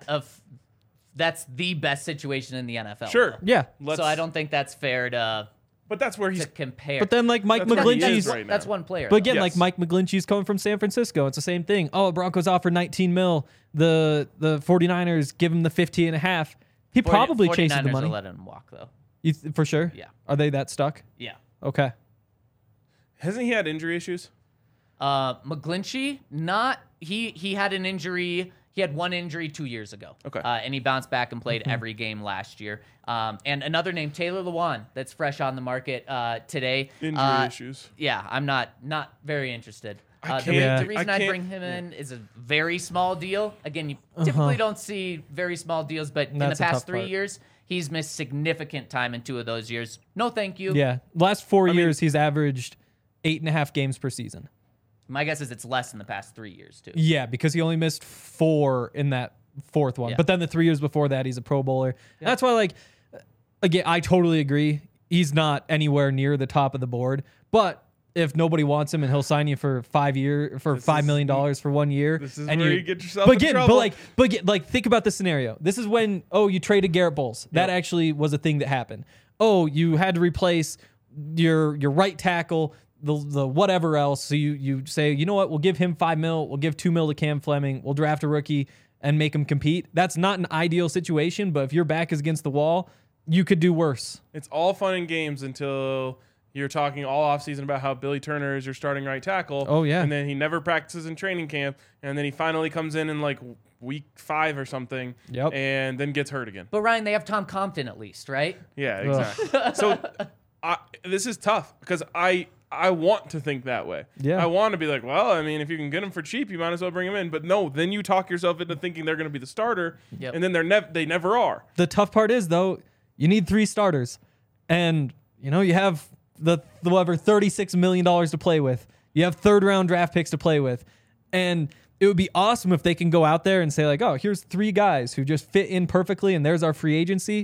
[SPEAKER 4] that's the best situation in the NFL.
[SPEAKER 2] Sure.
[SPEAKER 4] though.
[SPEAKER 3] yeah.
[SPEAKER 4] So I don't think that's fair to
[SPEAKER 2] But that's where he's
[SPEAKER 4] compare.
[SPEAKER 3] But then like Mike
[SPEAKER 2] That's what he is
[SPEAKER 3] McGlinchey's
[SPEAKER 2] right now.
[SPEAKER 4] that's one player.
[SPEAKER 3] But
[SPEAKER 4] though.
[SPEAKER 3] again,
[SPEAKER 2] Yes.
[SPEAKER 3] like Mike McGlinchey's coming from San Francisco. It's the same thing. Oh, Broncos offer 19 mil. The 49ers give him the 50 and a half. He probably chases the
[SPEAKER 4] 49ers
[SPEAKER 3] money.
[SPEAKER 4] will let him walk though.
[SPEAKER 3] For sure?
[SPEAKER 4] Yeah.
[SPEAKER 3] Are they that stuck?
[SPEAKER 4] Yeah.
[SPEAKER 3] Okay.
[SPEAKER 2] hasn't he had injury issues?
[SPEAKER 4] McGlinchey, not he had an injury. He had one injury 2 years ago.
[SPEAKER 2] Okay.
[SPEAKER 4] And he bounced back and played every game last year. And another name, Taylor Lewan, that's fresh on the market today.
[SPEAKER 2] Injury issues.
[SPEAKER 4] Yeah, I'm not very interested.
[SPEAKER 2] I
[SPEAKER 4] The,
[SPEAKER 2] can't-
[SPEAKER 4] the reason
[SPEAKER 2] I
[SPEAKER 4] I
[SPEAKER 2] can't-
[SPEAKER 4] bring him in is a very small deal. Again, you typically don't see very small deals, but in the
[SPEAKER 3] That's the
[SPEAKER 4] past
[SPEAKER 3] tough
[SPEAKER 4] 3
[SPEAKER 3] part.
[SPEAKER 4] years, he's missed significant time in 2 of those years. No, thank you.
[SPEAKER 3] Yeah. Last 4 years, he's averaged 8.5 games per season.
[SPEAKER 4] My guess is it's less in the past 3 years too.
[SPEAKER 3] Yeah, because he only missed 4 in that fourth one.
[SPEAKER 4] Yeah.
[SPEAKER 3] But then the 3 years before that, he's a Pro Bowler. Yeah. That's why, like, again, I totally agree. He's not anywhere near the top of the board. But if nobody wants him and he'll sign you for $5 million for 1 year,
[SPEAKER 2] This is
[SPEAKER 3] and
[SPEAKER 2] where you get yourself in trouble.
[SPEAKER 3] But think about the scenario. This is when you traded Garrett Bowles. That actually was a thing that happened. You had to replace your right tackle, the whatever else. So you say, you know what? We'll give him $5 million. We'll give $2 million to Cam Fleming. We'll draft a rookie and make him compete. That's not an ideal situation. But if your back is against the wall, you could do worse.
[SPEAKER 2] It's all fun and games until you're talking all offseason about how Billy Turner is your starting right tackle.
[SPEAKER 3] Oh, yeah.
[SPEAKER 2] And then he never practices in training camp. And then he finally comes in like week 5 or something.
[SPEAKER 3] Yep.
[SPEAKER 2] And then gets hurt again.
[SPEAKER 4] But Ryan, they have Tom Compton at least, right?
[SPEAKER 2] Yeah, exactly. So this is tough because I want to think that way.
[SPEAKER 3] Yeah.
[SPEAKER 2] I want to be like, well, I mean, if you can get him for cheap, you might as well bring him in. But no, then you talk yourself into thinking they're going to be the starter.
[SPEAKER 4] Yep.
[SPEAKER 2] And then they never are.
[SPEAKER 3] The tough part is, though, you need 3 starters. And, you have the whatever $36 million to play with. You have 3rd-round draft picks to play with. And it would be awesome if they can go out there and say, like, oh, here's 3 guys who just fit in perfectly, and there's our free agency.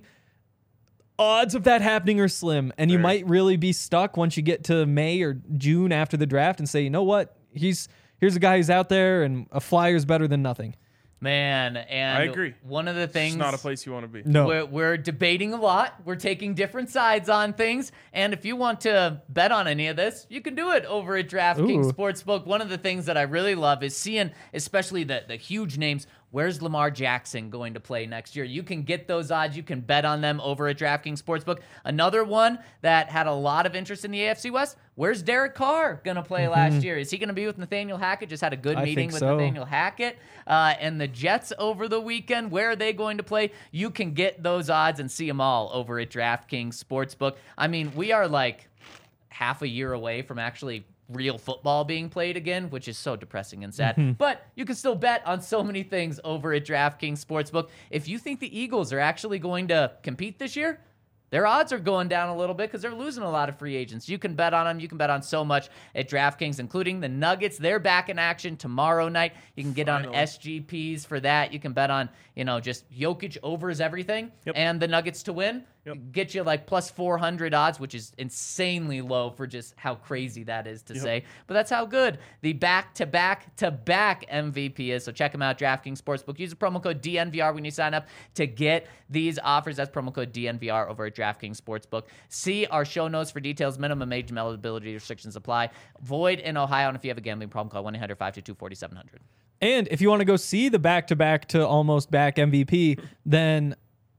[SPEAKER 3] Odds of that happening are slim. And you might really be stuck once you get to May or June after the draft and say, you know what? Here's a guy who's out there, and a flyer's better than nothing.
[SPEAKER 4] Man, and
[SPEAKER 2] I agree.
[SPEAKER 4] One of the things,
[SPEAKER 2] It's not a place you want to be.
[SPEAKER 3] No.
[SPEAKER 4] we're debating a lot. We're taking different sides on things. And if you want to bet on any of this, you can do it over at DraftKings
[SPEAKER 3] Ooh.
[SPEAKER 4] Sportsbook. One of the things that I really love is seeing, especially the huge names, where's Lamar Jackson going to play next year? You can get those odds. You can bet on them over at DraftKings Sportsbook. Another one that had a lot of interest in the AFC West, where's Derek Carr going to play last year? Is he going to be with Nathaniel Hackett? Just had a good
[SPEAKER 3] I
[SPEAKER 4] meeting
[SPEAKER 3] think
[SPEAKER 4] with
[SPEAKER 3] so.
[SPEAKER 4] Nathaniel Hackett. And the Jets over the weekend, where are they going to play? You can get those odds and see them all over at DraftKings Sportsbook. I mean, we are like half a year away from actually real football being played again, which is so depressing and sad. But you can still bet on so many things over at DraftKings Sportsbook. If you think the Eagles are actually going to compete this year, their odds are going down a little bit because they're losing a lot of free agents. You can bet on them. You can bet on so much at DraftKings, including the Nuggets. They're back in action tomorrow night. You can get on SGPs for that. You can bet on, just Jokic overs everything and the Nuggets to win. Get you like plus 400 odds, which is insanely low for just how crazy that is to say. But that's how good the back-to-back-to-back MVP is. So check them out, DraftKings Sportsbook. Use the promo code DNVR when you sign up to get these offers. That's promo code DNVR over at DraftKings Sportsbook. See our show notes for details. Minimum age and eligibility restrictions apply. Void in Ohio. And if you have a gambling problem, call 1-800-522-4700.
[SPEAKER 3] And if you want to go see the back-to-back to almost back MVP, then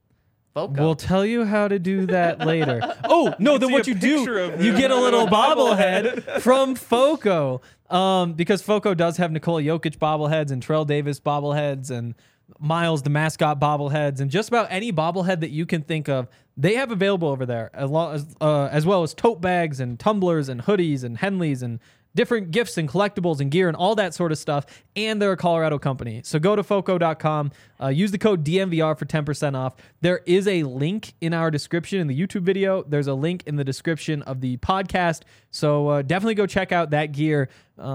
[SPEAKER 4] Foco.
[SPEAKER 3] we'll tell you how to do that later. Oh, no, then
[SPEAKER 2] see
[SPEAKER 3] what
[SPEAKER 2] a
[SPEAKER 3] you do,
[SPEAKER 2] picture of
[SPEAKER 3] you
[SPEAKER 2] him.
[SPEAKER 3] get a little bobblehead from Foco. Because Foco does have Nikola Jokic bobbleheads and Terrell Davis bobbleheads and Miles, the mascot bobbleheads, and just about any bobblehead that you can think of, they have available over there, as well as tote bags and tumblers and hoodies and Henleys and different gifts and collectibles and gear and all that sort of stuff. And they're a Colorado company. So go to Foco.com, use the code DNVR for 10% off. There is a link in our description in the YouTube video. There's a link in the description of the podcast. So definitely go check out that gear.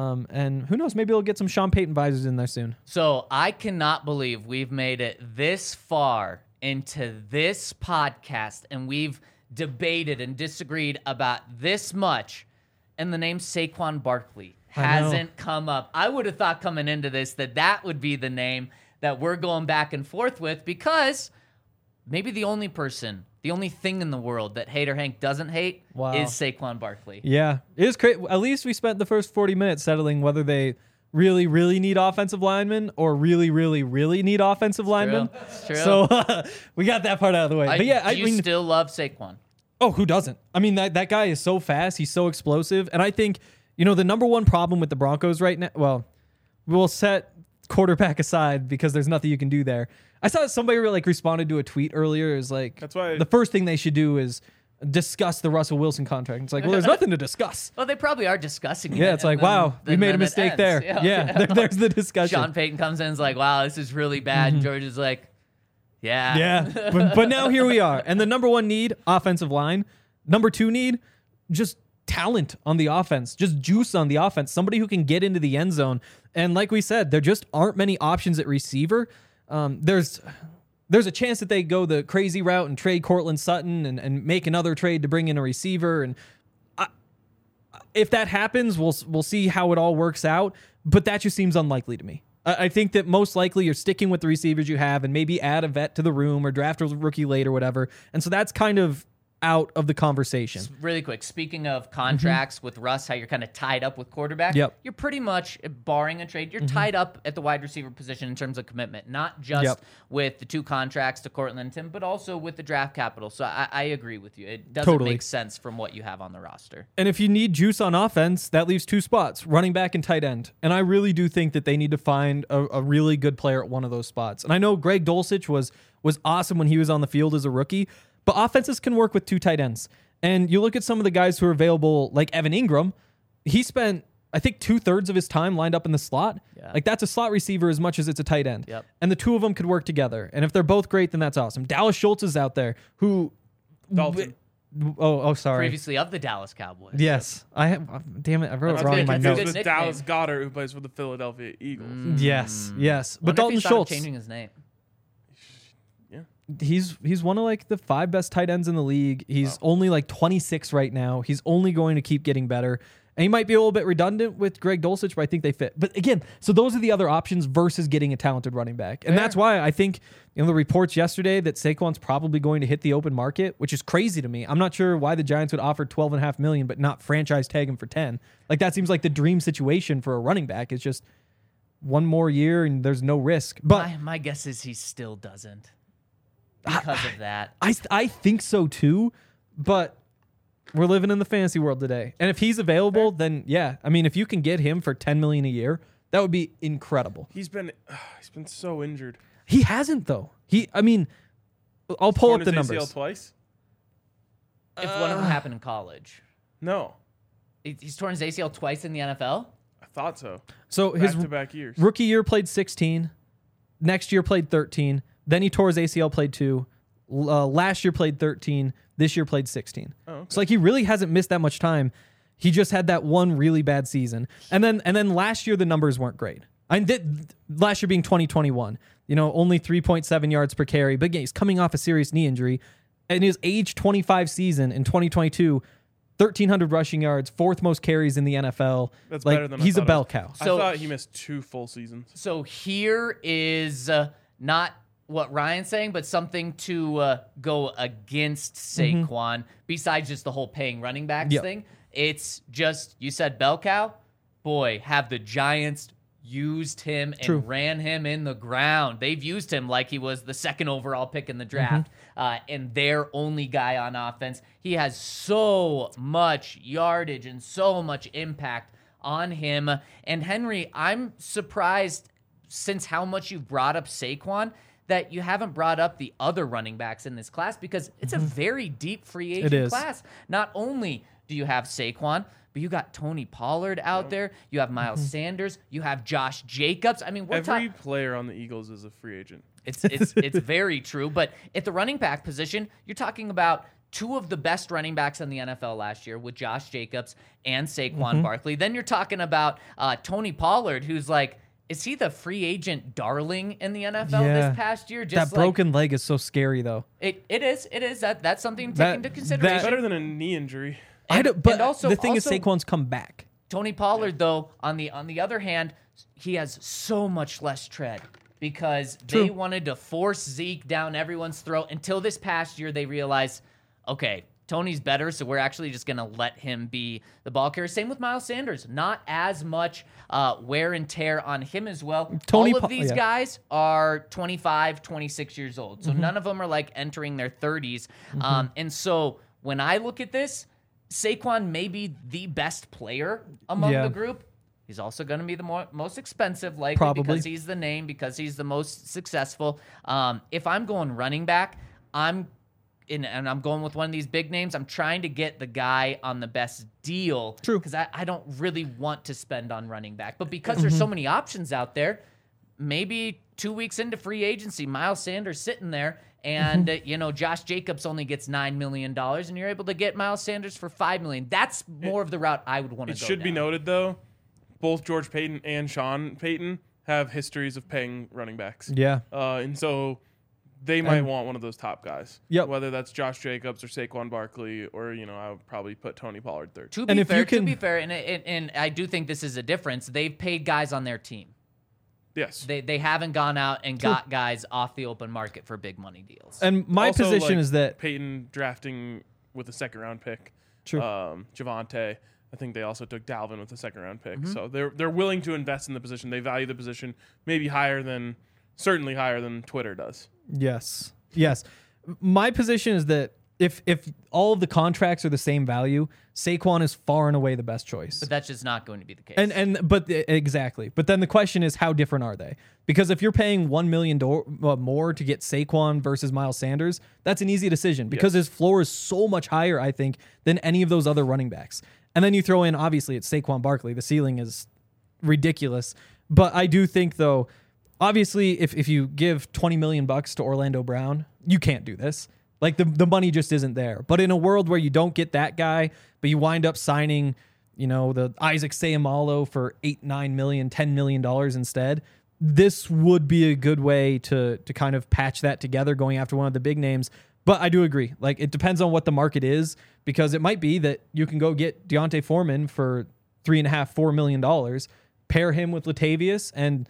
[SPEAKER 3] And who knows, maybe we'll get some Sean Payton visors in there soon.
[SPEAKER 4] So I cannot believe we've made it this far into this podcast and we've debated and disagreed about this much, and the name Saquon Barkley hasn't come up. I would have thought coming into this that would be the name that we're going back and forth with, because maybe the only thing in the world that Hater Hank doesn't hate is Saquon Barkley.
[SPEAKER 3] Yeah, it is great. At least we spent the first 40 minutes settling whether they really, really need offensive linemen or really, really, really need offensive linemen.
[SPEAKER 4] It's true.
[SPEAKER 3] So we got that part out of the way. But yeah,
[SPEAKER 4] do you still love Saquon?
[SPEAKER 3] Oh, who doesn't? I mean, that guy is so fast. He's so explosive. And I think, the number one problem with the Broncos right now, well, we'll set quarterback aside because there's nothing you can do there. I saw somebody responded to a tweet earlier. It was like,
[SPEAKER 2] That's why
[SPEAKER 3] the first thing they should do is discuss the Russell Wilson contract. It's like, well, there's nothing to discuss.
[SPEAKER 4] Well, they probably are discussing it.
[SPEAKER 3] Yeah, it's like, wow, we made a mistake there. Yeah, there's the discussion.
[SPEAKER 4] Sean Payton comes in and is like, wow, this is really bad. And George is like, yeah.
[SPEAKER 3] Yeah, but now here we are. And the number one need, offensive line. Number two need, just talent on the offense, just juice on the offense, somebody who can get into the end zone. And like we said, there just aren't many options at receiver. There's a chance that they go the crazy route and trade Cortland Sutton and make another trade to bring in a receiver. And if that happens, we'll see how it all works out. But that just seems unlikely to me. I think that most likely you're sticking with the receivers you have and maybe add a vet to the room or draft a rookie late or whatever. And so that's kind of out of the conversation.
[SPEAKER 4] Really quick, speaking of contracts with Russ, how you're kind of tied up with quarterback,
[SPEAKER 3] Yep.
[SPEAKER 4] you're pretty much, barring a trade, you're tied up at the wide receiver position in terms of commitment, not just with the 2 contracts to Cortland and Tim, but also with the draft capital. So I agree with you. It doesn't
[SPEAKER 3] Totally
[SPEAKER 4] make sense from what you have on the roster.
[SPEAKER 3] And if you need juice on offense, that leaves 2 spots, running back and tight end. And I really do think that they need to find a really good player at one of those spots. And I know Greg Dulcich was awesome when he was on the field as a rookie, but offenses can work with 2 tight ends. And you look at some of the guys who are available, like Evan Ingram, he spent, I think, 2/3 of his time lined up in the slot.
[SPEAKER 4] Yeah.
[SPEAKER 3] Like, that's a slot receiver as much as it's a tight end.
[SPEAKER 4] Yep.
[SPEAKER 3] And the 2 of them could work together. And if they're both great, then that's awesome. Dallas Schultz is out there who...
[SPEAKER 2] Dalton.
[SPEAKER 3] Oh, sorry.
[SPEAKER 4] Previously of the Dallas Cowboys.
[SPEAKER 3] Yes. Damn it, I wrote it
[SPEAKER 4] That's
[SPEAKER 3] wrong
[SPEAKER 4] good.
[SPEAKER 3] in my
[SPEAKER 4] That's a
[SPEAKER 3] notes.
[SPEAKER 4] good
[SPEAKER 2] With
[SPEAKER 4] nickname.
[SPEAKER 2] Dallas Goddard, who plays for the Philadelphia Eagles.
[SPEAKER 3] Yes. But
[SPEAKER 4] Wonder if
[SPEAKER 3] Dalton
[SPEAKER 4] he's thought of
[SPEAKER 3] Schultz,
[SPEAKER 4] changing his name.
[SPEAKER 3] he's one of like the 5 best tight ends in the league. He's only like 26 right now. He's only going to keep getting better. And he might be a little bit redundant with Greg Dulcich, but I think they fit. But again, so those are the other options versus getting a talented running back. And that's why I think, the reports yesterday that Saquon's probably going to hit the open market, which is crazy to me. I'm not sure why the Giants would offer $12.5 million, but not franchise tag him for 10. Like, that seems like the dream situation for a running back. It's just one more year and there's no risk. But
[SPEAKER 4] My guess is he still doesn't because of that.
[SPEAKER 3] I think so too, but we're living in the fantasy world today. And if he's available, then yeah. I mean, if you can get him for $10 million a year, that would be incredible.
[SPEAKER 2] He's been so injured.
[SPEAKER 3] He hasn't though. I'll pull
[SPEAKER 2] Torn
[SPEAKER 3] up the
[SPEAKER 2] his
[SPEAKER 3] numbers.
[SPEAKER 2] ACL twice?
[SPEAKER 4] If one of them happened in college.
[SPEAKER 2] No,
[SPEAKER 4] He's torn his ACL twice in the NFL?
[SPEAKER 2] I thought so.
[SPEAKER 3] So his
[SPEAKER 2] Back-to-back years.
[SPEAKER 3] rookie year played 16, next year played 13, then he tore his ACL, played 2. Last year played 13, this year played 16.
[SPEAKER 2] Oh, okay.
[SPEAKER 3] So like he really hasn't missed that much time. He just had that one really bad season. And then last year the numbers weren't great. Last year being 2021, only 3.7 yards per carry. But again, he's coming off a serious knee injury. In his age 25 season in 2022, 1,300 rushing yards, 4th most carries in the NFL.
[SPEAKER 2] That's
[SPEAKER 3] like,
[SPEAKER 2] better than I
[SPEAKER 3] he's a
[SPEAKER 2] thought it
[SPEAKER 3] bell
[SPEAKER 2] was.
[SPEAKER 3] cow.
[SPEAKER 4] So-
[SPEAKER 2] I thought he missed 2 full seasons.
[SPEAKER 4] So here is not what Ryan's saying, but something to go against Saquon, besides just the whole paying running backs
[SPEAKER 3] Yep.
[SPEAKER 4] thing. It's just, you said bell cow. Boy, have the Giants used him and
[SPEAKER 3] True.
[SPEAKER 4] ran him in the ground. They've used him like he was the 2nd overall pick in the draft and their only guy on offense. He has so much yardage and so much impact on him. And Henry, I'm surprised since how much you've brought up Saquon that you haven't brought up the other running backs in this class because it's a very deep free agent
[SPEAKER 3] is.
[SPEAKER 4] class. Not only do you have Saquon, but you got Tony Pollard out there. You have Miles Sanders. You have Josh Jacobs. I mean,
[SPEAKER 2] Every player on the Eagles is a free agent.
[SPEAKER 4] it's very true. But at the running back position, you're talking about 2 of the best running backs in the NFL last year with Josh Jacobs and Saquon Barkley. Then you're talking about Tony Pollard, who's like, is he the free agent darling in the NFL this past year?
[SPEAKER 3] That broken leg is so scary though.
[SPEAKER 4] It is. That's something to take into consideration.
[SPEAKER 2] Better than a knee injury.
[SPEAKER 3] But
[SPEAKER 4] also-
[SPEAKER 3] the thing is,
[SPEAKER 4] also-
[SPEAKER 3] Saquon's come back.
[SPEAKER 4] Tony Pollard, though, on the other hand, he has so much less tread because they wanted to force Zeke down everyone's throat until this past year they realized, okay, Tony's better, so we're actually just going to let him be the ball carrier. Same with Miles Sanders. Not as much wear and tear on him as well. All of these guys are 25, 26 years old, so none of them are like entering their 30s. And so when I look at this, Saquon may be the best player among the group. He's also going to be the most expensive, likely, because he's the name, because he's the most successful. If I'm going running back, and I'm going with one of these big names, I'm trying to get the guy on the best deal.
[SPEAKER 3] True.
[SPEAKER 4] Because I don't really want to spend on running back. But because there's so many options out there, maybe 2 weeks into free agency, Miles Sanders sitting there, and Josh Jacobs only gets $9 million, and you're able to get Miles Sanders for $5 million. That's more of the route I would want to go
[SPEAKER 2] It should be
[SPEAKER 4] down.
[SPEAKER 2] noted, though, both George Payton and Sean Payton have histories of paying running backs.
[SPEAKER 3] Yeah.
[SPEAKER 2] And so they might want one of those top guys.
[SPEAKER 3] Yep.
[SPEAKER 2] Whether that's Josh Jacobs or Saquon Barkley, or I would probably put Tony Pollard third.
[SPEAKER 4] To
[SPEAKER 3] And
[SPEAKER 4] be
[SPEAKER 3] if
[SPEAKER 4] fair,
[SPEAKER 3] you can-
[SPEAKER 4] and I do think this is a difference. They've paid guys on their team.
[SPEAKER 2] Yes.
[SPEAKER 4] They haven't gone out and got guys off the open market for big money deals.
[SPEAKER 3] And my
[SPEAKER 2] Also,
[SPEAKER 3] position
[SPEAKER 2] like,
[SPEAKER 3] is that
[SPEAKER 2] Peyton drafting with a second round pick.
[SPEAKER 3] True.
[SPEAKER 2] Javonte. I think they also took Dalvin with a second round pick.
[SPEAKER 3] Mm-hmm.
[SPEAKER 2] So they're willing to invest in the position. They value the position maybe certainly higher than Twitter does.
[SPEAKER 3] yes. My position is that if all of the contracts are the same value, Saquon is far and away the best choice.
[SPEAKER 4] But that's just not going to be the case.
[SPEAKER 3] Exactly. But then the question is, how different are they? Because if you're paying $1 million more to get Saquon versus Miles Sanders, that's an easy decision because his floor is so much higher, I think, than any of those other running backs. And then you throw in, obviously, it's Saquon Barkley. The ceiling is ridiculous. But I do think, though, obviously, if you give $20 million to Orlando Brown, you can't do this. Like the money just isn't there. But in a world where you don't get that guy, but you wind up signing, the Isaac Seumalo for $8, $9 million, $10 million instead, this would be a good way to kind of patch that together going after one of the big names. But I do agree. Like, it depends on what the market is, because it might be that you can go get Deontay Foreman for $3.5, $4 million, pair him with Latavius, and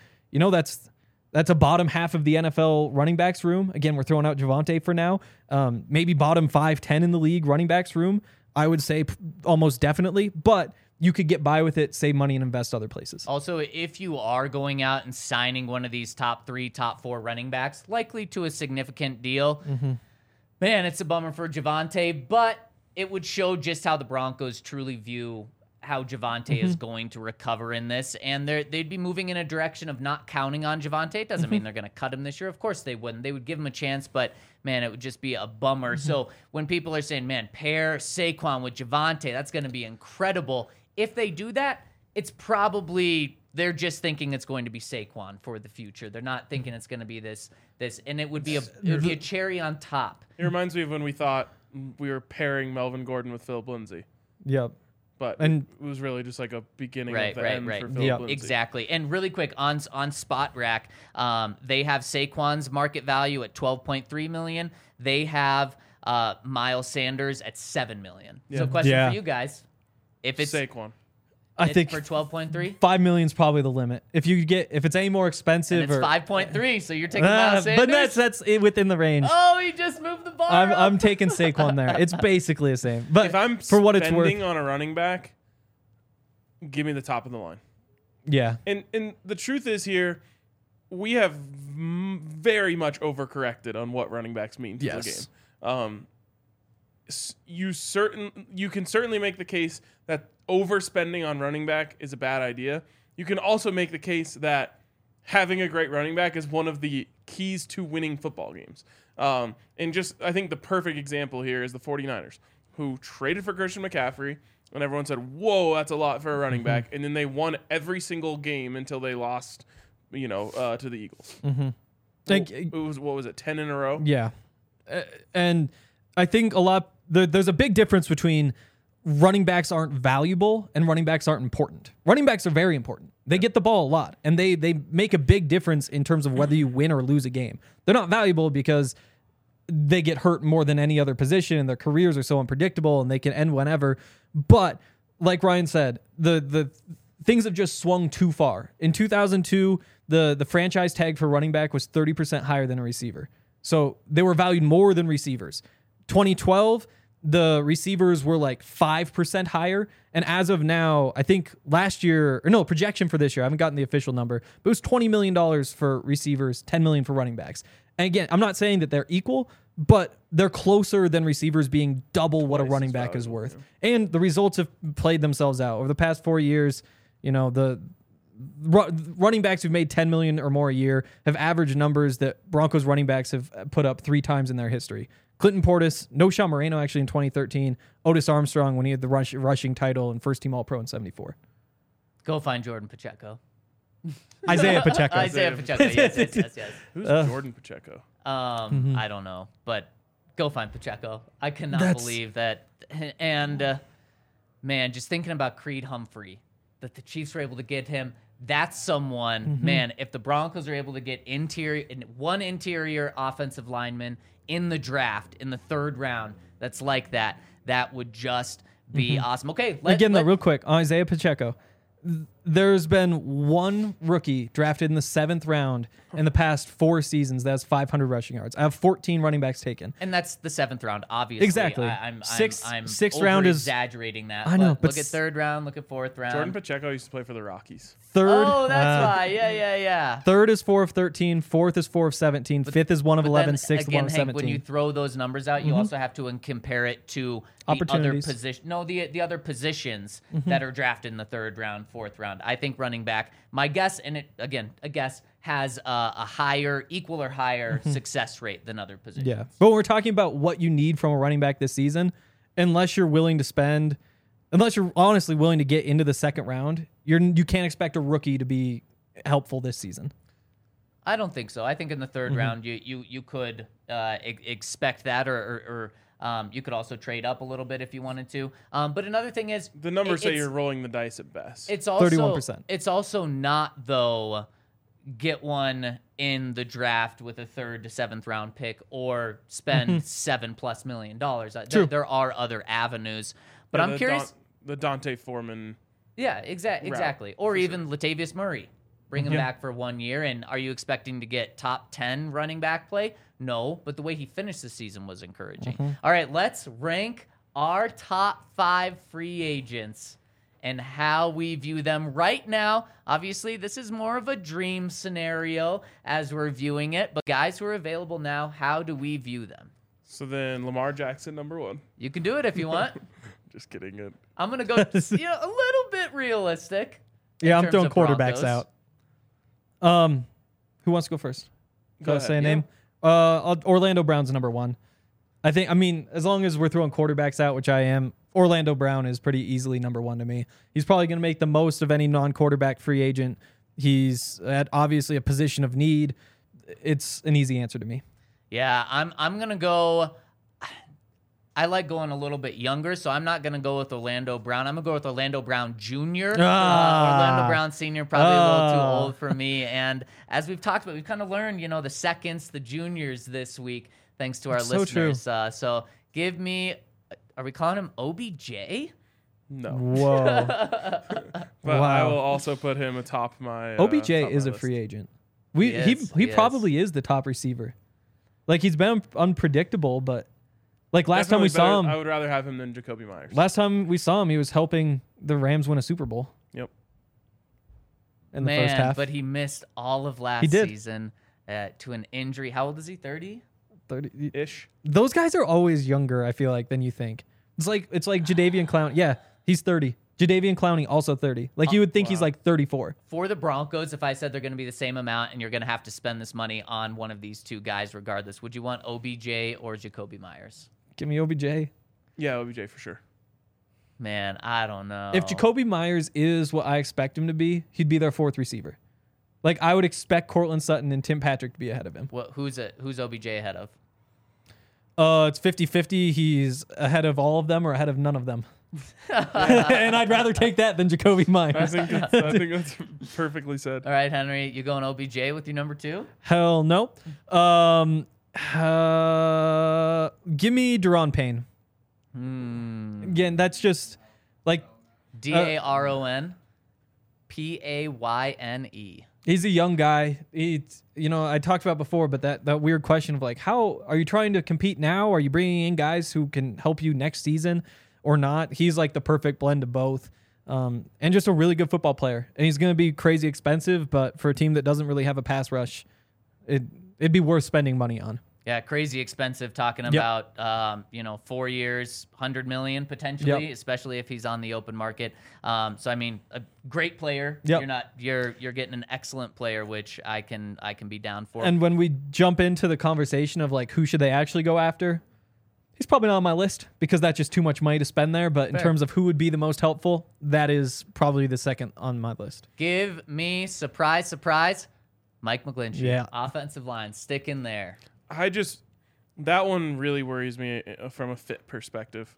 [SPEAKER 3] that's a bottom half of the NFL running backs room. Again, we're throwing out Javonte for now. Maybe bottom 5, 10 in the league running backs room. I would say almost definitely, but you could get by with it, save money, and invest other places.
[SPEAKER 4] Also, if you are going out and signing one of these top 3, top 4 running backs, likely to a significant deal, man, it's a bummer for Javonte, but it would show just how the Broncos truly view how Javonte is going to recover in this, and they'd be moving in a direction of not counting on Javonte. It doesn't mean they're going to cut him this year. Of course they wouldn't. They would give him a chance, but man, it would just be a bummer. So when people are saying, man, pair Saquon with Javonte, that's going to be incredible. If they do that, it's probably they're just thinking it's going to be Saquon for the future. They're not thinking it's going to be this, and it would be a cherry on top.
[SPEAKER 2] It reminds me of when we thought we were pairing Melvin Gordon with Philip Lindsay.
[SPEAKER 3] Yep.
[SPEAKER 2] But
[SPEAKER 3] And-
[SPEAKER 2] it was really just like a beginning
[SPEAKER 4] Right,
[SPEAKER 2] of the end for Philip
[SPEAKER 3] Yep.
[SPEAKER 2] Lindsay.
[SPEAKER 4] Exactly. And really quick on Spot Rack, they have Saquon's market value at $12.3 million. They have Miles Sanders at $7 million. So question
[SPEAKER 3] Yeah.
[SPEAKER 4] for you guys. If it's
[SPEAKER 2] Saquon.
[SPEAKER 3] I think
[SPEAKER 4] for 12.3,
[SPEAKER 3] $5 million is probably the limit. If it's any more expensive,
[SPEAKER 4] and it's
[SPEAKER 3] or
[SPEAKER 4] 5.3, so you're taking Miles Sanders.
[SPEAKER 3] but that's within the range.
[SPEAKER 4] Oh, he just moved the bar.
[SPEAKER 3] I'm taking Saquon there. It's basically the same. But
[SPEAKER 2] If I'm
[SPEAKER 3] for what it's
[SPEAKER 2] spending
[SPEAKER 3] worth,
[SPEAKER 2] on a running back, give me the top of the line.
[SPEAKER 3] yeah,
[SPEAKER 2] And the truth is here, we have very much overcorrected on what running backs mean to
[SPEAKER 3] Yes.
[SPEAKER 2] the game. You can certainly make the case that overspending on running back is a bad idea. You can also make the case that having a great running back is one of the keys to winning football games. And just, I think the perfect example here is the 49ers, who traded for Christian McCaffrey, and everyone said, whoa, that's a lot for a running back. And then they won every single game until they lost, to the Eagles.
[SPEAKER 3] Like,
[SPEAKER 2] It was, what was it, 10 in a row?
[SPEAKER 3] yeah. And I think there's a big difference between running backs aren't valuable and running backs aren't important. Running backs are very important. They get the ball a lot, and they make a big difference in terms of whether you win or lose a game. They're not valuable because they get hurt more than any other position, and their careers are so unpredictable, and they can end whenever. But like Ryan said, the things have just swung too far. In 2002, the franchise tag for running back was 30% higher than a receiver. So they were valued more than receivers. 2012, the receivers were like 5% higher. And as of now, I think projection for this year, I haven't gotten the official number, but it was $20 million for receivers, $10 million for running backs. And again, I'm not saying that they're equal, but they're closer than receivers being double what a running back is worth. And the results have played themselves out. Over the past 4 years, the running backs who've made $10 million or more a year have averaged numbers that Broncos running backs have put up 3 times in their history. Clinton Portis, Noshawn Moreno actually in 2013, Otis Armstrong when he had the rushing title and first team All-Pro in 74.
[SPEAKER 4] Go find Jordan Pacheco.
[SPEAKER 3] Isaiah Pacheco.
[SPEAKER 4] Isaiah Pacheco. Yes.
[SPEAKER 2] Who's Jordan Pacheco?
[SPEAKER 4] I don't know, but go find Pacheco. I cannot believe that. And man, just thinking about Creed Humphrey, that the Chiefs were able to get him. That's someone, man, if the Broncos are able to get one interior offensive lineman in the draft in the 3rd round that's like that, that would just be awesome. Okay,
[SPEAKER 3] real quick, Isaiah Pacheco. There's been one rookie drafted in the 7th round in the past 4 seasons that has 500 rushing yards. I have 14 running backs taken.
[SPEAKER 4] And that's the 7th round, obviously.
[SPEAKER 3] Exactly.
[SPEAKER 4] I'm
[SPEAKER 3] sixth round is
[SPEAKER 4] exaggerating that.
[SPEAKER 3] I know, but
[SPEAKER 4] look at 3rd round, look at 4th round.
[SPEAKER 2] Jordan Pacheco used to play for the Rockies.
[SPEAKER 3] 3rd.
[SPEAKER 4] Oh, that's why. Yeah.
[SPEAKER 3] 3rd is 4 of 13. 4th is 4 of 17. 5th is 1 of 11. 6th is 1
[SPEAKER 4] again,
[SPEAKER 3] of
[SPEAKER 4] Hank,
[SPEAKER 3] 17.
[SPEAKER 4] when you throw those numbers out, you also have to compare it to the other
[SPEAKER 3] Opportunities.
[SPEAKER 4] position. No, the other positions that are drafted in the 3rd round, 4th round. I think running back. My guess, and it again, a guess, has a higher, equal or higher success rate than other positions.
[SPEAKER 3] Yeah. But we're talking about what you need from a running back this season. Unless you're honestly willing to get into the 2nd round, you can't expect a rookie to be helpful this season.
[SPEAKER 4] I don't think so. I think in the 3rd round, you could expect that, or you could also trade up a little bit if you wanted to. But another thing is
[SPEAKER 2] The numbers say you're rolling the dice at best.
[SPEAKER 4] It's also
[SPEAKER 3] 31%.
[SPEAKER 4] It's also not though. Get one in the draft with a 3rd to 7th round pick, or spend $7+ million.
[SPEAKER 3] True.
[SPEAKER 4] There are other avenues, but I'm curious.
[SPEAKER 2] The Dante Foreman.
[SPEAKER 4] Yeah, exactly. Or even Latavius Murray. Bring him back for 1 year. And are you expecting to get top 10 running back play? No, but the way he finished the season was encouraging. All right, let's rank our top 5 free agents and how we view them right now. Obviously, this is more of a dream scenario as we're viewing it, but guys who are available now, how do we view them?
[SPEAKER 2] So then Lamar Jackson, number 1.
[SPEAKER 4] You can do it if you want.
[SPEAKER 2] Just kidding.
[SPEAKER 4] I'm going to go a little bit realistic.
[SPEAKER 3] Yeah,
[SPEAKER 4] in
[SPEAKER 3] I'm
[SPEAKER 4] terms
[SPEAKER 3] throwing
[SPEAKER 4] of
[SPEAKER 3] quarterbacks
[SPEAKER 4] Broncos.
[SPEAKER 3] out. Who wants to go first?
[SPEAKER 2] Go
[SPEAKER 3] Say a
[SPEAKER 2] ahead.
[SPEAKER 3] name. Orlando Brown's number 1. I mean, as long as we're throwing quarterbacks out, which I am, Orlando Brown is pretty easily number 1 to me. He's probably going to make the most of any non-quarterback free agent. He's at obviously a position of need. It's an easy answer to me.
[SPEAKER 4] Yeah, I'm going to go. I like going a little bit younger, so I'm not going to go with Orlando Brown. I'm going to go with Orlando Brown Jr. Orlando Brown Sr., probably a little too old for me. And as we've talked about, we've kind of learned, the seconds, the juniors this week, thanks to our listeners. So give me, are we calling him OBJ?
[SPEAKER 2] No.
[SPEAKER 3] Whoa.
[SPEAKER 2] But
[SPEAKER 3] Wow.
[SPEAKER 2] I will also put him atop my
[SPEAKER 3] OBJ
[SPEAKER 2] top
[SPEAKER 3] is
[SPEAKER 2] my
[SPEAKER 3] a
[SPEAKER 2] list.
[SPEAKER 3] free agent.
[SPEAKER 4] He
[SPEAKER 3] Probably is the top receiver. Like, he's been unpredictable, but like last time we saw him,
[SPEAKER 2] I would rather have him than Jacoby Myers.
[SPEAKER 3] last time we saw him, he was helping the Rams win a Super Bowl
[SPEAKER 2] Yep.
[SPEAKER 3] in the first half.
[SPEAKER 4] But he missed all of last
[SPEAKER 3] He did.
[SPEAKER 4] season to an injury. How old is he? 30?
[SPEAKER 3] 30.
[SPEAKER 2] Ish.
[SPEAKER 3] Those guys are always younger, I feel like, than you think. It's like Jadeveon Clowney. Yeah, he's 30. Jadeveon Clowney also 30. Like, you would think he's like 34.
[SPEAKER 4] For the Broncos, if I said they're going to be the same amount and you're going to have to spend this money on one of these two guys regardless, would you want OBJ or Jacoby Myers?
[SPEAKER 3] Give me OBJ.
[SPEAKER 2] Yeah, OBJ for sure.
[SPEAKER 4] Man, I don't know.
[SPEAKER 3] If Jacoby Myers is what I expect him to be, he'd be their 4th receiver. Like, I would expect Cortland Sutton and Tim Patrick to be ahead of him.
[SPEAKER 4] Who's OBJ ahead of?
[SPEAKER 3] It's 50-50. He's ahead of all of them or ahead of none of them. And I'd rather take that than Jacoby
[SPEAKER 2] I
[SPEAKER 3] Myers.
[SPEAKER 2] think that's perfectly said.
[SPEAKER 4] All right, Henry, you going OBJ with your number 2?
[SPEAKER 3] Hell no. Give me Deron Payne. Again, that's just like
[SPEAKER 4] DARON PAYNE.
[SPEAKER 3] he's a young guy. I talked about before, but that weird question of like, how are you trying to compete now? Are you bringing in guys who can help you next season or not? He's like the perfect blend of both. And just a really good football player. And he's going to be crazy expensive, but for a team that doesn't really have a pass rush, it'd be worth spending money on.
[SPEAKER 4] Yeah, crazy expensive. Talking about 4 years, $100 million potentially, especially if he's on the open market. So I mean, a great player.
[SPEAKER 3] Yep.
[SPEAKER 4] You're getting an excellent player, which I can be down for.
[SPEAKER 3] And when we jump into the conversation of like who should they actually go after, he's probably not on my list because that's just too much money to spend there. But in terms of who would be the most helpful, that is probably the second on my list.
[SPEAKER 4] Give me surprise, Mike McGlinchey.
[SPEAKER 3] Yeah.
[SPEAKER 4] Offensive line, stick in there.
[SPEAKER 2] that one really worries me from a fit perspective.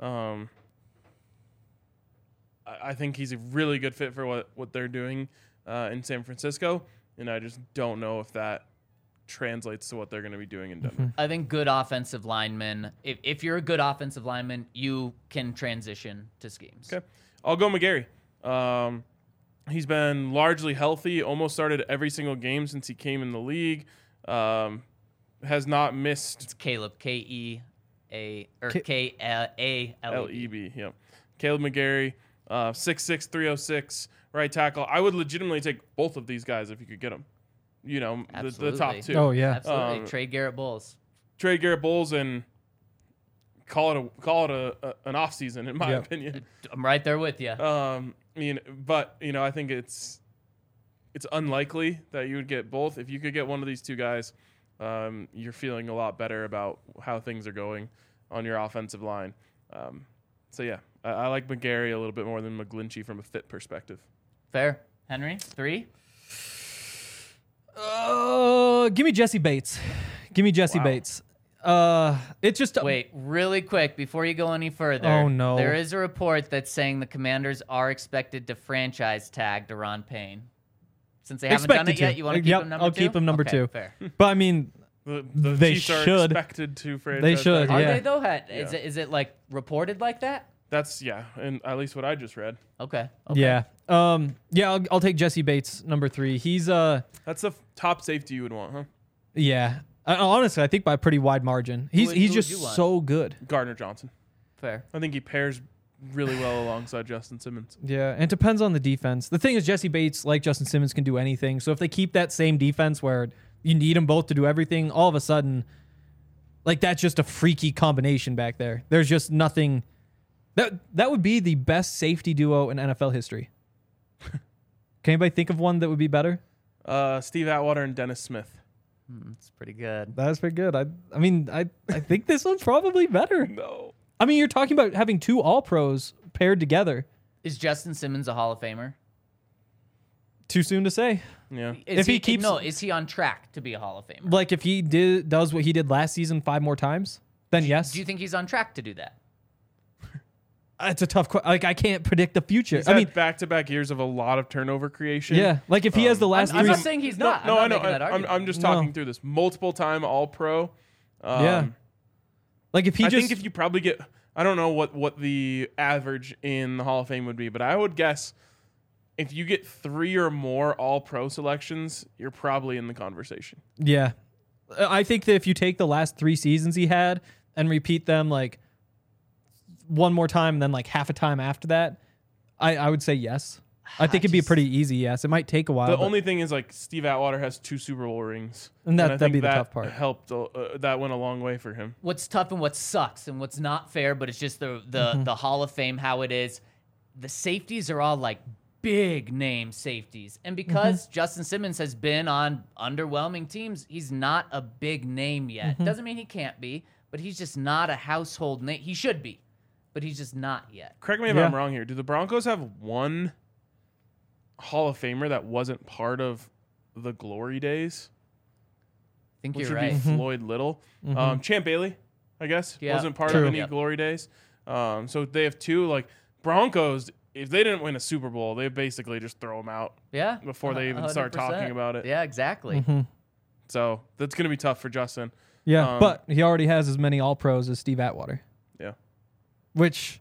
[SPEAKER 2] I think he's a really good fit for what they're doing in San Francisco, and I just don't know if that translates to what they're going to be doing in Denver.
[SPEAKER 4] I think good offensive linemen, if you're a good offensive lineman, you can transition to schemes.
[SPEAKER 2] Okay. I'll go McGarry. He's been largely healthy, almost started every single game since he came in the league. Has not missed.
[SPEAKER 4] It's Caleb, K-E-A, or K-A-L-E-B.
[SPEAKER 2] L-E-B, yep. Caleb McGarry, 6'6", 306, right tackle. I would legitimately take both of these guys if you could get them. You know, the top two.
[SPEAKER 3] Oh, yeah.
[SPEAKER 4] Absolutely. Trade Garrett Bowles.
[SPEAKER 2] Trade Garrett Bowles and call it an offseason, in my opinion.
[SPEAKER 4] I'm right there with you.
[SPEAKER 2] I think it's unlikely that you would get both. If you could get one of these two guys, you're feeling a lot better about how things are going on your offensive line. I like McGarry a little bit more than McGlinchey from a fit perspective.
[SPEAKER 4] Fair. Henry, 3?
[SPEAKER 3] Give me Jesse Bates. Bates. It's just
[SPEAKER 4] wait, really quick before you go any further.
[SPEAKER 3] Oh no!
[SPEAKER 4] There is a report that's saying the Commanders are expected to franchise tag Daron Payne. Since they haven't done it yet, you want to keep him number 2?
[SPEAKER 3] I'll keep him number 2.
[SPEAKER 4] Fair.
[SPEAKER 3] But I mean,
[SPEAKER 2] the
[SPEAKER 3] they
[SPEAKER 2] Chiefs
[SPEAKER 3] should.
[SPEAKER 2] Are expected to franchise.
[SPEAKER 3] They should.
[SPEAKER 4] Are
[SPEAKER 3] Yeah.
[SPEAKER 4] they though? Is it like reported like that?
[SPEAKER 2] That's and at least what I just read.
[SPEAKER 4] Okay.
[SPEAKER 3] Yeah. I'll take Jesse Bates number 3. He's
[SPEAKER 2] That's the top safety you would want, huh?
[SPEAKER 3] Yeah. Honestly, I think by a pretty wide margin. He's
[SPEAKER 4] would you
[SPEAKER 3] just
[SPEAKER 4] want?
[SPEAKER 3] so good.
[SPEAKER 2] Gardner Johnson.
[SPEAKER 4] Fair.
[SPEAKER 2] I think he pairs really well alongside Justin Simmons.
[SPEAKER 3] Yeah, and it depends on the defense. The thing is, Jesse Bates, like Justin Simmons, can do anything. So if they keep that same defense where you need them both to do everything, all of a sudden, like that's just a freaky combination back there. There's just nothing. That would be the best safety duo in NFL history. Can anybody think of one that would be better?
[SPEAKER 2] Steve Atwater and Dennis Smith.
[SPEAKER 4] It's pretty good.
[SPEAKER 3] That's pretty good. I think this one's probably better.
[SPEAKER 2] No.
[SPEAKER 3] I mean, you're talking about having 2 All-Pros paired together.
[SPEAKER 4] Is Justin Simmons a Hall of Famer?
[SPEAKER 3] Too soon to say.
[SPEAKER 2] Yeah.
[SPEAKER 4] Is
[SPEAKER 3] Is
[SPEAKER 4] he on track to be a Hall of Famer?
[SPEAKER 3] Like if he does what he did last season 5 more times, then yes.
[SPEAKER 4] Do you think he's on track to do that?
[SPEAKER 3] It's a tough question. Like I can't predict the future.
[SPEAKER 2] He's had back-to-back years of a lot of turnover creation.
[SPEAKER 3] Yeah. Like if he has the last
[SPEAKER 4] I'm
[SPEAKER 3] 3
[SPEAKER 4] not saying he's not.
[SPEAKER 2] No,
[SPEAKER 4] I'm
[SPEAKER 2] I know.
[SPEAKER 4] not making that argument.
[SPEAKER 2] I'm just talking through this. Multiple-time All-Pro.
[SPEAKER 3] Yeah. Like if he
[SPEAKER 2] I think if you probably get, I don't know what the average in the Hall of Fame would be, but I would guess if you get 3 or more All-Pro selections, you're probably in the conversation.
[SPEAKER 3] Yeah. I think that if you take the last 3 seasons he had and repeat them like one more time and then like half a time after that, I would say yes. I think it'd be a pretty easy yes. It might take a while.
[SPEAKER 2] The only thing is like Steve Atwater has 2 Super Bowl rings.
[SPEAKER 3] And
[SPEAKER 2] I
[SPEAKER 3] that'd
[SPEAKER 2] think
[SPEAKER 3] be the
[SPEAKER 2] that
[SPEAKER 3] tough part.
[SPEAKER 2] Helped, that went a long way for him.
[SPEAKER 4] What's tough and what sucks and what's not fair, but it's just the Hall of Fame how it is. The safeties are all like big name safeties. And because Justin Simmons has been on underwhelming teams, he's not a big name yet. Doesn't mean he can't be, but he's just not a household name. He should be, but he's just not yet.
[SPEAKER 2] Correct me if I'm wrong here. Do the Broncos have one Hall of Famer that wasn't part of the glory days?
[SPEAKER 4] I think
[SPEAKER 2] Which
[SPEAKER 4] you're
[SPEAKER 2] would
[SPEAKER 4] right.
[SPEAKER 2] be Floyd Little. Champ Bailey, I guess,
[SPEAKER 4] Yeah.
[SPEAKER 2] wasn't part
[SPEAKER 3] True.
[SPEAKER 2] of any
[SPEAKER 4] Yep.
[SPEAKER 2] glory days. So they have 2. Like Broncos, if they didn't win a Super Bowl, they basically just throw them out
[SPEAKER 4] Yeah.
[SPEAKER 2] before they even start
[SPEAKER 4] 100%.
[SPEAKER 2] talking about it.
[SPEAKER 4] Yeah, exactly.
[SPEAKER 2] So that's going to be tough for Justin.
[SPEAKER 3] Yeah, but he already has as many All-Pros as Steve Atwater.
[SPEAKER 2] Yeah.
[SPEAKER 3] Which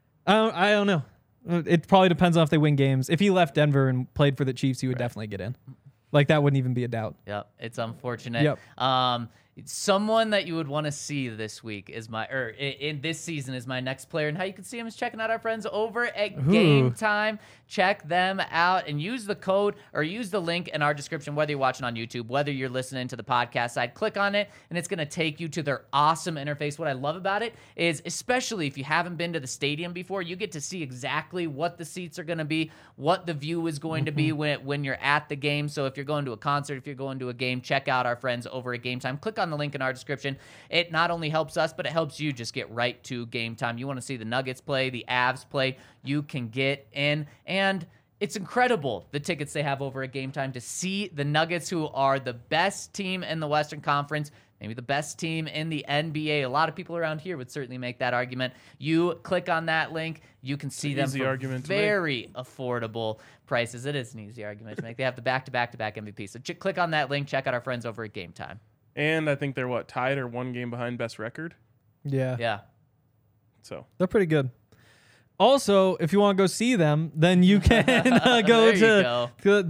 [SPEAKER 3] I don't know. It probably depends on if they win games. If he left Denver and played for the Chiefs, he would definitely get in. Like that wouldn't even be a doubt.
[SPEAKER 4] Yep, it's unfortunate.
[SPEAKER 3] Yep.
[SPEAKER 4] Someone that you would want to see this week is in this season is my next player, and how you can see him is checking out our friends over at Game Time. Check them out and use the code or use the link in our description, whether you're watching on YouTube, whether you're listening to the podcast side. Click on it, and it's going to take you to their awesome interface. What I love about it is, especially if you haven't been to the stadium before, you get to see exactly what the seats are going to be, what the view is going to be when you're at the game. So if you're going to a concert, if you're going to a game, check out our friends over at Game Time. Click on the link in our description. It not only helps us, but it helps you just get right to Game Time. You want to see the Nuggets play, the Avs play, you can get in. And it's incredible, the tickets they have over at Game Time, to see the Nuggets, who are the best team in the Western Conference, maybe the best team in the NBA. A lot of people around here would certainly make that argument. You click on that link, you can see them for very affordable prices. It is an easy argument to make. They have the back-to-back-to-back MVP. So click on that link, check out our friends over at Game Time.
[SPEAKER 2] And I think they're tied or one game behind best record.
[SPEAKER 3] Yeah.
[SPEAKER 4] Yeah.
[SPEAKER 3] So they're pretty good. Also, if you want to go see them, then you can go to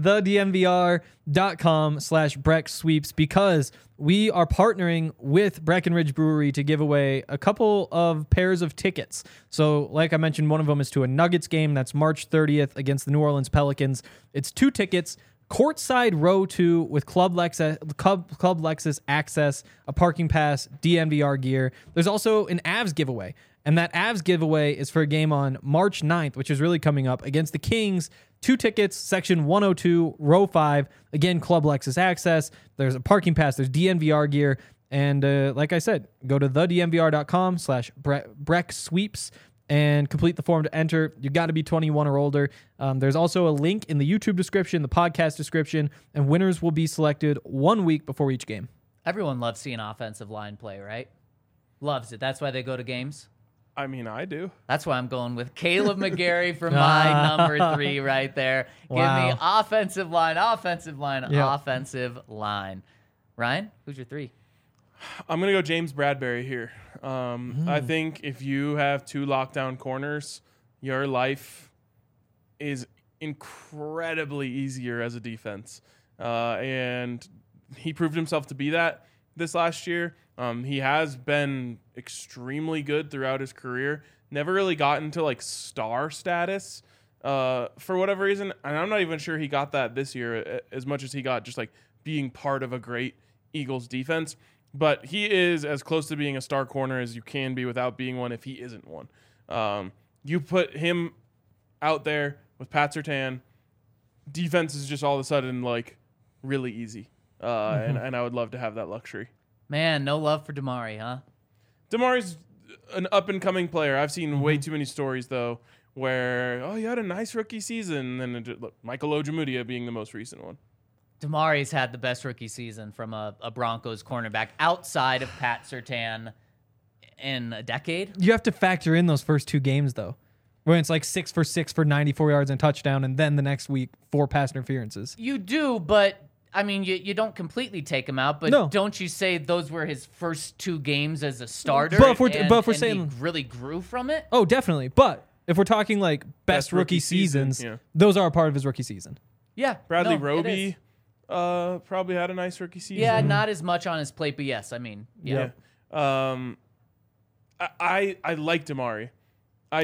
[SPEAKER 3] thednvr.com/Breck Sweeps, because we are partnering with Breckenridge Brewery to give away a couple of pairs of tickets. So like I mentioned, one of them is to a Nuggets game. That's March 30th against the New Orleans Pelicans. It's 2 tickets, courtside row 2 with Club Lexus access, a parking pass, DNVR gear. There's also an Avs giveaway. And that Avs giveaway is for a game on March 9th, which is really coming up, against the Kings. 2 tickets, section 102, row 5. Again, Club Lexus access. There's a parking pass. There's DNVR gear. And like I said, go to thednvr.com/Breck Sweeps and complete the form to enter. You got to be 21 or older. There's also a link in the YouTube description, the podcast description, and winners will be selected 1 week before each game.
[SPEAKER 4] Everyone loves seeing offensive line play, right? Loves it. That's why they go to games.
[SPEAKER 2] I mean, I do.
[SPEAKER 4] That's why I'm going with Caleb McGarry for my number 3 right there.
[SPEAKER 3] Wow.
[SPEAKER 4] Give me offensive line, offensive line. Ryan, who's your 3?
[SPEAKER 2] I'm going to go James Bradbury here. I think if you have 2 lockdown corners, your life is incredibly easier as a defense. And he proved himself to be that this last year. He has been extremely good throughout his career. Never really got into star status for whatever reason. And I'm not even sure he got that this year as much as he got just being part of a great Eagles defense. But he is as close to being a star corner as you can be without being one if he isn't one. You put him out there with Pat Surtain, defense is just all of a sudden really easy. And I would love to have that luxury.
[SPEAKER 4] Man, no love for Damari, huh?
[SPEAKER 2] Damari's an up-and-coming player. I've seen way too many stories, though, where, you had a nice rookie season, and then Michael Ojemudia being the most recent one.
[SPEAKER 4] Damari's had the best rookie season from a Broncos cornerback outside of Pat Surtain in a decade.
[SPEAKER 3] You have to factor in those first 2 games, though, when it's 6 for 6 for 94 yards and touchdown, and then the next week, 4 pass interferences.
[SPEAKER 4] You do, but... I mean, you don't completely take him out, but Don't you say those were his first 2 games as a starter?
[SPEAKER 3] But if we're saying
[SPEAKER 4] he really grew from it?
[SPEAKER 3] Oh, definitely. But if we're talking best rookie seasons, those are a part of his rookie season.
[SPEAKER 4] Yeah.
[SPEAKER 2] Bradley Roby probably had a nice rookie season.
[SPEAKER 4] Yeah, not as much on his plate, but yes, I mean, yeah.
[SPEAKER 2] I like Damari. I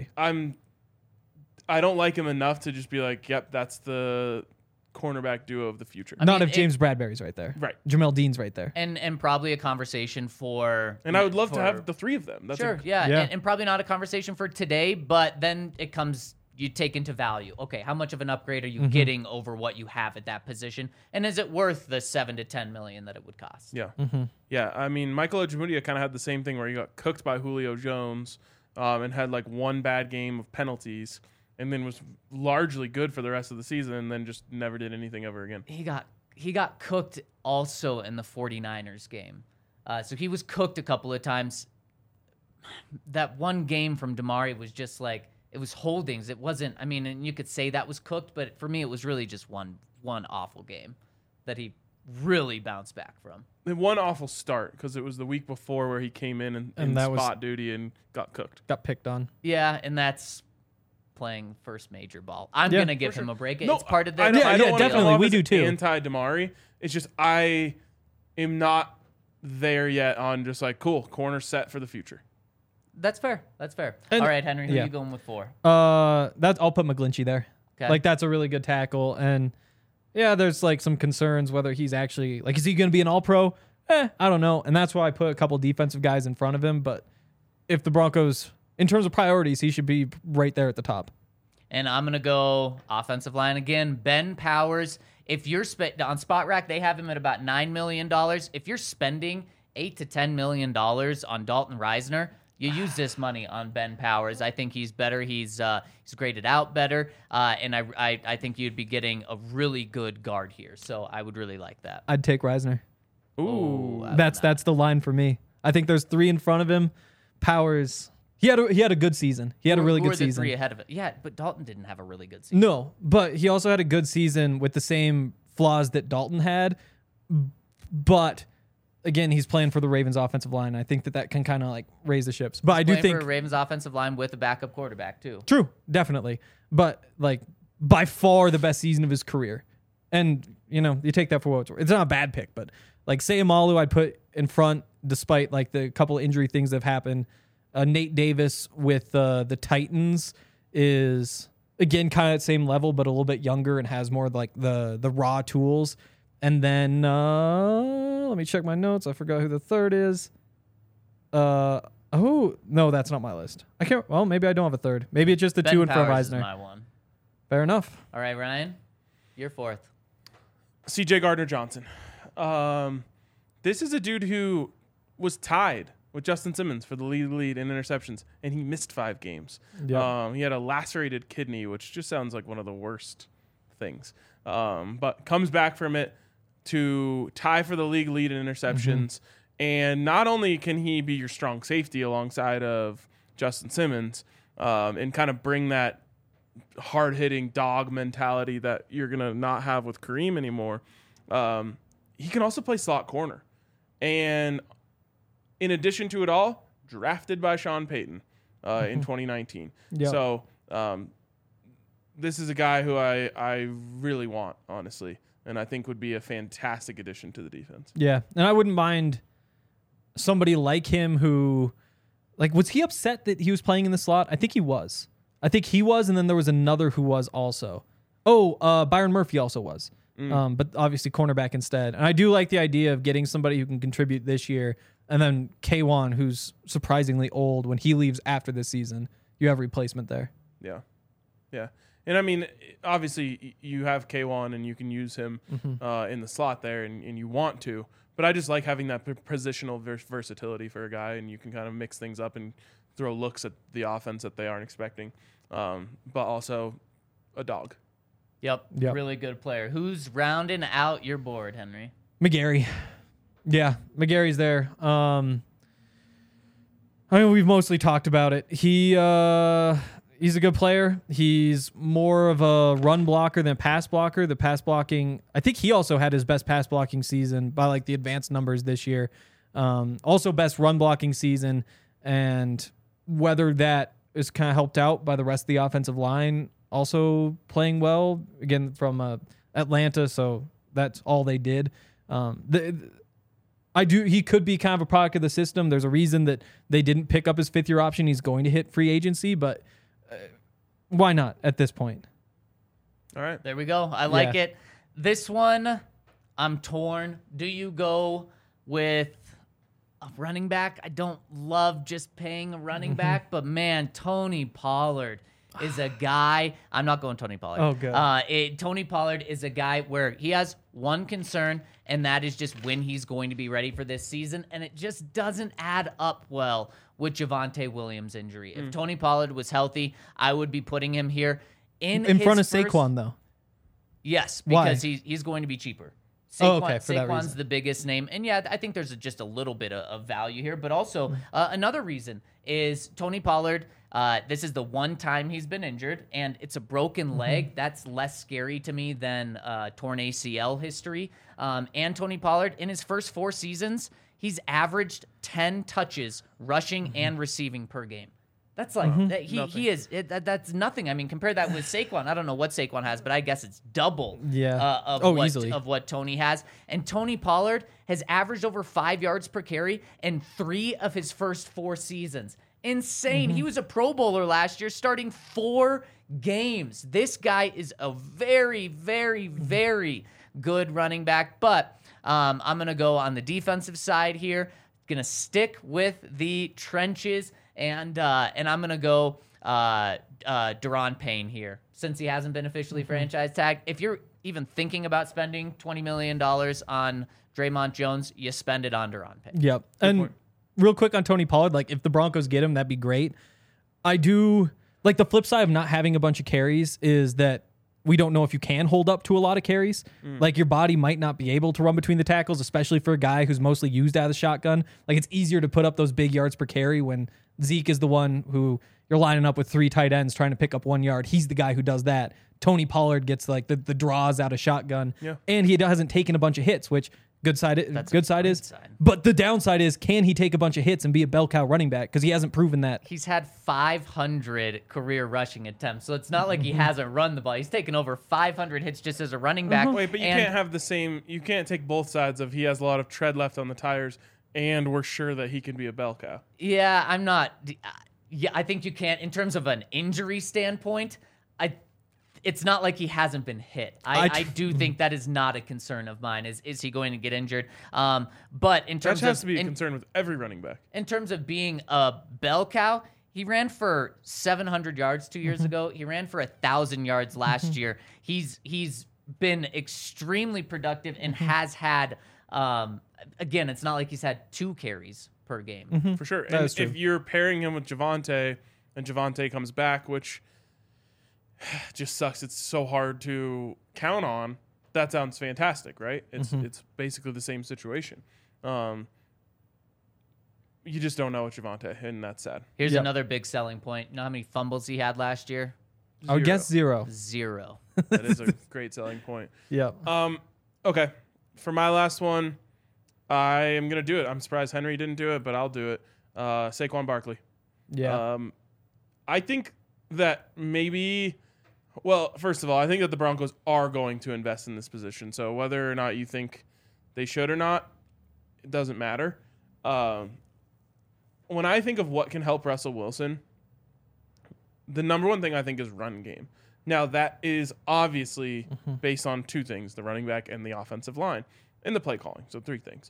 [SPEAKER 2] don't like him enough to just be yep, that's the cornerback duo of the future.
[SPEAKER 3] Not if James Bradbury's right there.
[SPEAKER 2] Right.
[SPEAKER 3] Jamel Dean's right there.
[SPEAKER 4] And probably a conversation for...
[SPEAKER 2] And I would love to have the 3 of them. That's
[SPEAKER 4] sure, yeah. And probably not a conversation for today, but then it comes... You take into value. Okay, how much of an upgrade are you getting over what you have at that position? And is it worth the $7 to $10 million that it would cost?
[SPEAKER 2] Yeah. Yeah, I mean, Michael Ojemudia kind of had the same thing where he got cooked by Julio Jones and had 1 bad game of penalties, and then was largely good for the rest of the season, and then just never did anything ever again.
[SPEAKER 4] He got cooked also in the 49ers game. So he was cooked a couple of times. That one game from Damari was just it was holdings. It wasn't, I mean, and you could say that was cooked, but for me, it was really just one awful game that he really bounced back from.
[SPEAKER 2] One awful start, because it was the week before where he came in and spot duty and got cooked.
[SPEAKER 3] Got picked on.
[SPEAKER 4] Yeah, and that's playing first major ball. I'm going to give him a break.
[SPEAKER 2] No,
[SPEAKER 4] it's part of the...
[SPEAKER 2] I don't
[SPEAKER 3] definitely. We do too.
[SPEAKER 2] Anti-Damari. It's just I am not there yet on just cool, corner set for the future.
[SPEAKER 4] That's fair.
[SPEAKER 3] And,
[SPEAKER 4] all right, Henry, who are you going with 4?
[SPEAKER 3] I'll put McGlinchey there.
[SPEAKER 4] Okay.
[SPEAKER 3] That's a really good tackle. And yeah, there's some concerns whether he's actually is he going to be an all-pro? I don't know. And that's why I put a couple defensive guys in front of him. But if the Broncos, in terms of priorities, he should be right there at the top.
[SPEAKER 4] And I'm going to go offensive line again. Ben Powers. If you're on Spot Rack, they have him at about $9 million. If you're spending $8 to $10 million on Dalton Reisner, you use this money on Ben Powers. I think he's better. He's graded out better, and I think you'd be getting a really good guard here. So I would really like that.
[SPEAKER 3] I'd take Reisner.
[SPEAKER 2] Ooh.
[SPEAKER 3] That's the line for me. I think there's 3 in front of him. Powers. He had a good season. He had a really
[SPEAKER 4] Who
[SPEAKER 3] good
[SPEAKER 4] are the
[SPEAKER 3] season.
[SPEAKER 4] 3 ahead of it? Yeah, but Dalton didn't have a really good season.
[SPEAKER 3] No, but he also had a good season with the same flaws that Dalton had. But again, he's playing for the Ravens offensive line. I think that can kind of like raise the ships. But I do
[SPEAKER 4] Playing
[SPEAKER 3] think
[SPEAKER 4] for Ravens offensive line with a backup quarterback too.
[SPEAKER 3] true, definitely. But like by far the best season of his career. And you take that for what it's worth. It's not a bad pick, but like Sayamalu I'd put in front despite like the couple of injury things that have happened. Nate Davis with the Titans is again kind of at the same level, but a little bit younger and has more like the raw tools. And then let me check my notes. I forgot who the third is. Oh no, that's not my list. I can't. Well, maybe I don't have a third. Maybe it's just the
[SPEAKER 4] Ben
[SPEAKER 3] 2 in front of
[SPEAKER 4] Powers is
[SPEAKER 3] Eisner.
[SPEAKER 4] my one.
[SPEAKER 3] Fair enough.
[SPEAKER 4] All right, Ryan, you're 4th.
[SPEAKER 2] C.J. Gardner-Johnson. This is a dude who was tied with Justin Simmons for the lead in interceptions, and he missed 5 games.
[SPEAKER 3] Yep.
[SPEAKER 2] He had a lacerated kidney, which just sounds like one of the worst things. But comes back from it to tie for the league lead in interceptions. And not only can he be your strong safety alongside of Justin Simmons and kind of bring that hard-hitting dog mentality that you're going to not have with Kareem anymore, he can also play slot corner. And in addition to it all, drafted by Sean Payton in 2019.
[SPEAKER 3] Yep.
[SPEAKER 2] So this is a guy who I really want, honestly, and I think would be a fantastic addition to the defense.
[SPEAKER 3] Yeah, and I wouldn't mind somebody like him who, like, was he upset that he was playing in the slot? I think he was. And then there was another who was also. Byron Murphy also was. But obviously cornerback instead. And I do like the idea of getting somebody who can contribute this year, and then K1, who's surprisingly old. When he leaves after this season, you have replacement there.
[SPEAKER 2] Yeah. And I mean, obviously you have K1 and you can use him in the slot there, and you want to. But I just like having that positional versatility for a guy, and you can kind of mix things up and throw looks at the offense that they aren't expecting. But also a dog.
[SPEAKER 4] Yep.
[SPEAKER 3] Yep.
[SPEAKER 4] Really good player. Who's rounding out your board, Henry?
[SPEAKER 3] McGarry. Yeah, McGarry's there. I mean, we've mostly talked about it. He's a good player. He's more of a run blocker than pass blocker. The pass blocking, I think he also had his best pass blocking season by like the advanced numbers this year. Also best run blocking season, and whether that is kind of helped out by the rest of the offensive line also playing well, again, from Atlanta, so that's all they did. He could be kind of a product of the system. There's a reason that they didn't pick up his 5th-year option. He's going to hit free agency, but why not at this point?
[SPEAKER 2] All right.
[SPEAKER 4] There we go. I like it. This one, I'm torn. Do you go with a running back? I don't love just paying a running back, but man, Tony Pollard is a guy. I'm not going Tony Pollard.
[SPEAKER 3] Oh, good.
[SPEAKER 4] Tony Pollard is a guy where he has one concern, and that is just when he's going to be ready for this season, and it just doesn't add up well with Javonte Williams' injury. If Tony Pollard was healthy, I would be putting him here in
[SPEAKER 3] front of
[SPEAKER 4] his
[SPEAKER 3] Saquon, though.
[SPEAKER 4] Yes,
[SPEAKER 3] Why?
[SPEAKER 4] because he's going to be cheaper.
[SPEAKER 3] Okay, for that
[SPEAKER 4] Saquon's
[SPEAKER 3] reason.
[SPEAKER 4] the biggest name. And yeah, I think there's just a little bit of value here. But also, another reason is Tony Pollard. This is the one time he's been injured, and it's a broken leg. That's less scary to me than torn ACL history. And Tony Pollard, in his first 4 seasons, he's averaged 10 touches rushing and receiving per game. That's like that's nothing. I mean, compare that with Saquon. I don't know what Saquon has, but I guess it's double
[SPEAKER 3] easily.
[SPEAKER 4] of what Tony has. And Tony Pollard has averaged over 5 yards per carry in 3 of his first 4 seasons. Insane. He was a Pro Bowler last year, starting 4 games. This guy is a very, very, very good running back. But I'm going to go on the defensive side here. Going to stick with the trenches. And I'm going to go Daron Payne here, since he hasn't been officially franchise tagged. If you're even thinking about spending $20 million on Draymond Jones, you spend it on Daron Payne.
[SPEAKER 3] Yep. And real quick on Tony Pollard, like if the Broncos get him, that'd be great. I do like the flip side of not having a bunch of carries is that we don't know if you can hold up to a lot of carries. Like your body might not be able to run between the tackles, especially for a guy who's mostly used out of the shotgun. Like it's easier to put up those big yards per carry when Zeke is the one who you're lining up with 3 tight ends trying to pick up 1 yard. He's the guy who does that. Tony Pollard gets like the draws out of shotgun, and he hasn't taken a bunch of hits, which good side is. But the downside is, can he take a bunch of hits and be a bell cow running back? Because he hasn't proven that.
[SPEAKER 4] He's had 500 career rushing attempts, so it's not like he hasn't run the ball. He's taken over 500 hits just as a running back.
[SPEAKER 2] Wait, but you can't have the same. You can't take both sides of he has a lot of tread left on the tires, and we're sure that he can be a bell cow.
[SPEAKER 4] Yeah, I'm not. Yeah, I think you can't. In terms of an injury standpoint, it's not like he hasn't been hit. I do think that is not a concern of mine. Is he going to get injured? But in terms
[SPEAKER 2] that has to be a concern with every running back.
[SPEAKER 4] In terms of being a bell cow, he ran for 700 yards 2 years ago. He ran for 1,000 yards last year. He's been extremely productive and has had. Again, it's not like he's had 2 carries per game.
[SPEAKER 2] For sure. And if you're pairing him with Javonte, and Javonte comes back, which just sucks. It's so hard to count on. That sounds fantastic, right? It's basically the same situation. You just don't know with Javonte, and that's sad.
[SPEAKER 4] Here's another big selling point. You know how many fumbles he had last year?
[SPEAKER 3] I would guess 0.
[SPEAKER 4] 0.
[SPEAKER 2] That is a great selling point.
[SPEAKER 3] Yeah.
[SPEAKER 2] Okay. For my last one, I am going to do it. I'm surprised Henry didn't do it, but I'll do it. Saquon Barkley.
[SPEAKER 3] Yeah.
[SPEAKER 2] I think that maybe... Well, first of all, I think that the Broncos are going to invest in this position. So whether or not you think they should or not, it doesn't matter. When I think of what can help Russell Wilson, the number one thing I think is run game. Now, that is obviously based on 2 things, the running back and the offensive line, and the play calling. So 3 things.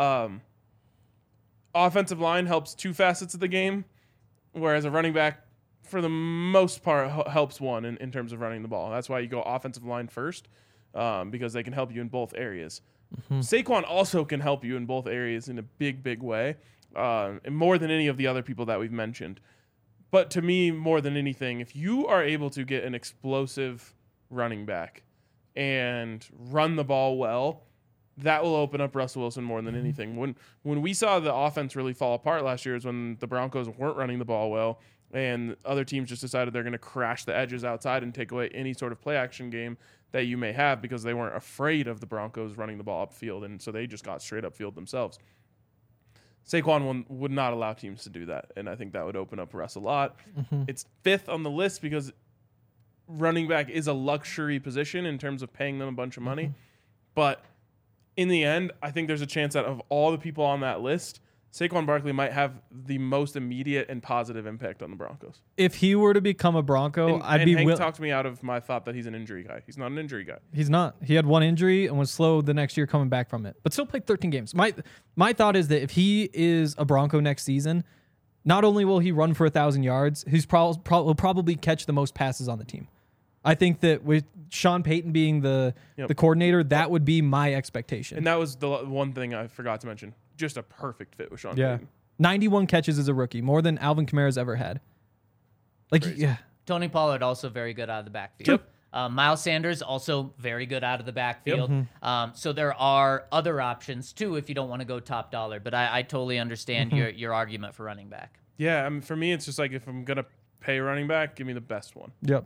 [SPEAKER 2] Offensive line helps 2 facets of the game, whereas a running back, for the most part, helps 1 in terms of running the ball. That's why you go offensive line first, because they can help you in both areas. Saquon also can help you in both areas in a big, big way, and more than any of the other people that we've mentioned. But to me, more than anything, if you are able to get an explosive running back and run the ball well, that will open up Russell Wilson more than anything. When we saw the offense really fall apart last year is when the Broncos weren't running the ball well, and other teams just decided they're going to crash the edges outside and take away any sort of play action game that you may have because they weren't afraid of the Broncos running the ball upfield, and so they just got straight upfield themselves. Saquon would not allow teams to do that, and I think that would open up Russ a lot. It's 5th on the list because running back is a luxury position in terms of paying them a bunch of money, but in the end, I think there's a chance that of all the people on that list, Saquon Barkley might have the most immediate and positive impact on the Broncos.
[SPEAKER 3] If he were to become a Bronco, I'd be
[SPEAKER 2] Hank talked me out of my thought that he's an injury guy. He's not an injury guy.
[SPEAKER 3] He's not. He had 1 injury and was slow the next year coming back from it, but still played 13 games. My thought is that if he is a Bronco next season, not only will he run for 1,000 yards, he's will probably catch the most passes on the team. I think that with Sean Payton being the coordinator, that would be my expectation.
[SPEAKER 2] And that was the one thing I forgot to mention. Just a perfect fit with Sean Payton.
[SPEAKER 3] 91 catches as a rookie, more than Alvin Kamara's ever had.
[SPEAKER 2] Crazy.
[SPEAKER 4] Tony Pollard also very good out of the backfield. Miles Sanders also very good out of the backfield. So there are other options too if you don't want to go top dollar. But I totally understand your argument for running back.
[SPEAKER 2] Yeah, I mean, for me, it's just like if I'm gonna pay running back, give me the best one.
[SPEAKER 3] Yep.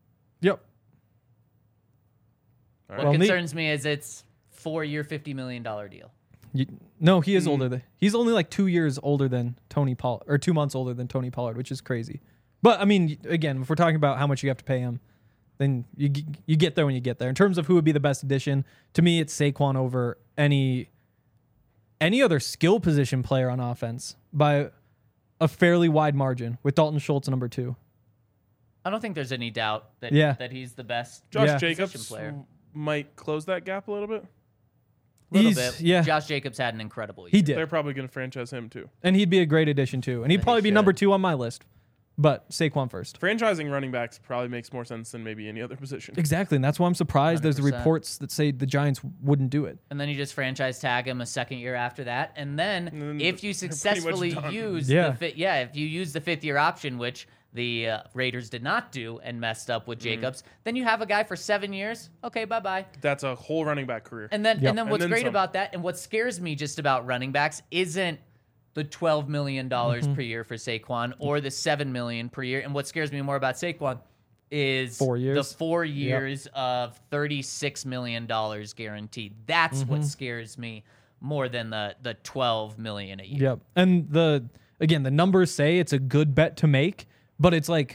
[SPEAKER 4] What concerns me is it's 4-year, $50 million deal.
[SPEAKER 3] No, he is older. He's only like 2 years older than Tony Pollard, or 2 months older than Tony Pollard, which is crazy. But I mean, again, if we're talking about how much you have to pay him, then you get there when you get there. In terms of who would be the best addition, to me, it's Saquon over any other skill position player on offense by a fairly wide margin, with Dalton Schultz number 2.
[SPEAKER 4] I don't think there's any doubt that he's the best
[SPEAKER 2] Josh
[SPEAKER 4] position
[SPEAKER 2] Jacobs
[SPEAKER 4] player.
[SPEAKER 2] Might close that gap a little bit.
[SPEAKER 4] Yeah. Josh Jacobs had an incredible year.
[SPEAKER 3] He did.
[SPEAKER 2] They're probably going to franchise him too.
[SPEAKER 3] And he'd be a great addition too. And he'd probably be number 2 on my list. But Saquon first.
[SPEAKER 2] Franchising running backs probably makes more sense than maybe any other position.
[SPEAKER 3] Exactly. And that's why I'm surprised
[SPEAKER 4] 100%.
[SPEAKER 3] there's the reports that say the Giants wouldn't do it.
[SPEAKER 4] And then you just franchise tag him a second year after that. And then if you successfully use if you use the 5th year option, which the Raiders did not do and messed up with
[SPEAKER 2] Mm-hmm.
[SPEAKER 4] Jacobs, then you have a guy for 7 years. Okay, bye-bye.
[SPEAKER 2] That's a whole running back career.
[SPEAKER 4] And then
[SPEAKER 3] Yep.
[SPEAKER 4] and then what's
[SPEAKER 2] And then
[SPEAKER 4] great
[SPEAKER 2] some.
[SPEAKER 4] about that and what scares me just about running backs isn't the $12 million per year for Saquon or the $7 million per year. And what scares me more about Saquon is
[SPEAKER 3] 4 years.
[SPEAKER 4] the 4 years of $36 million guaranteed. That's what scares me more than the $12 million a year.
[SPEAKER 3] Yep. And the numbers say it's a good bet to make, but it's a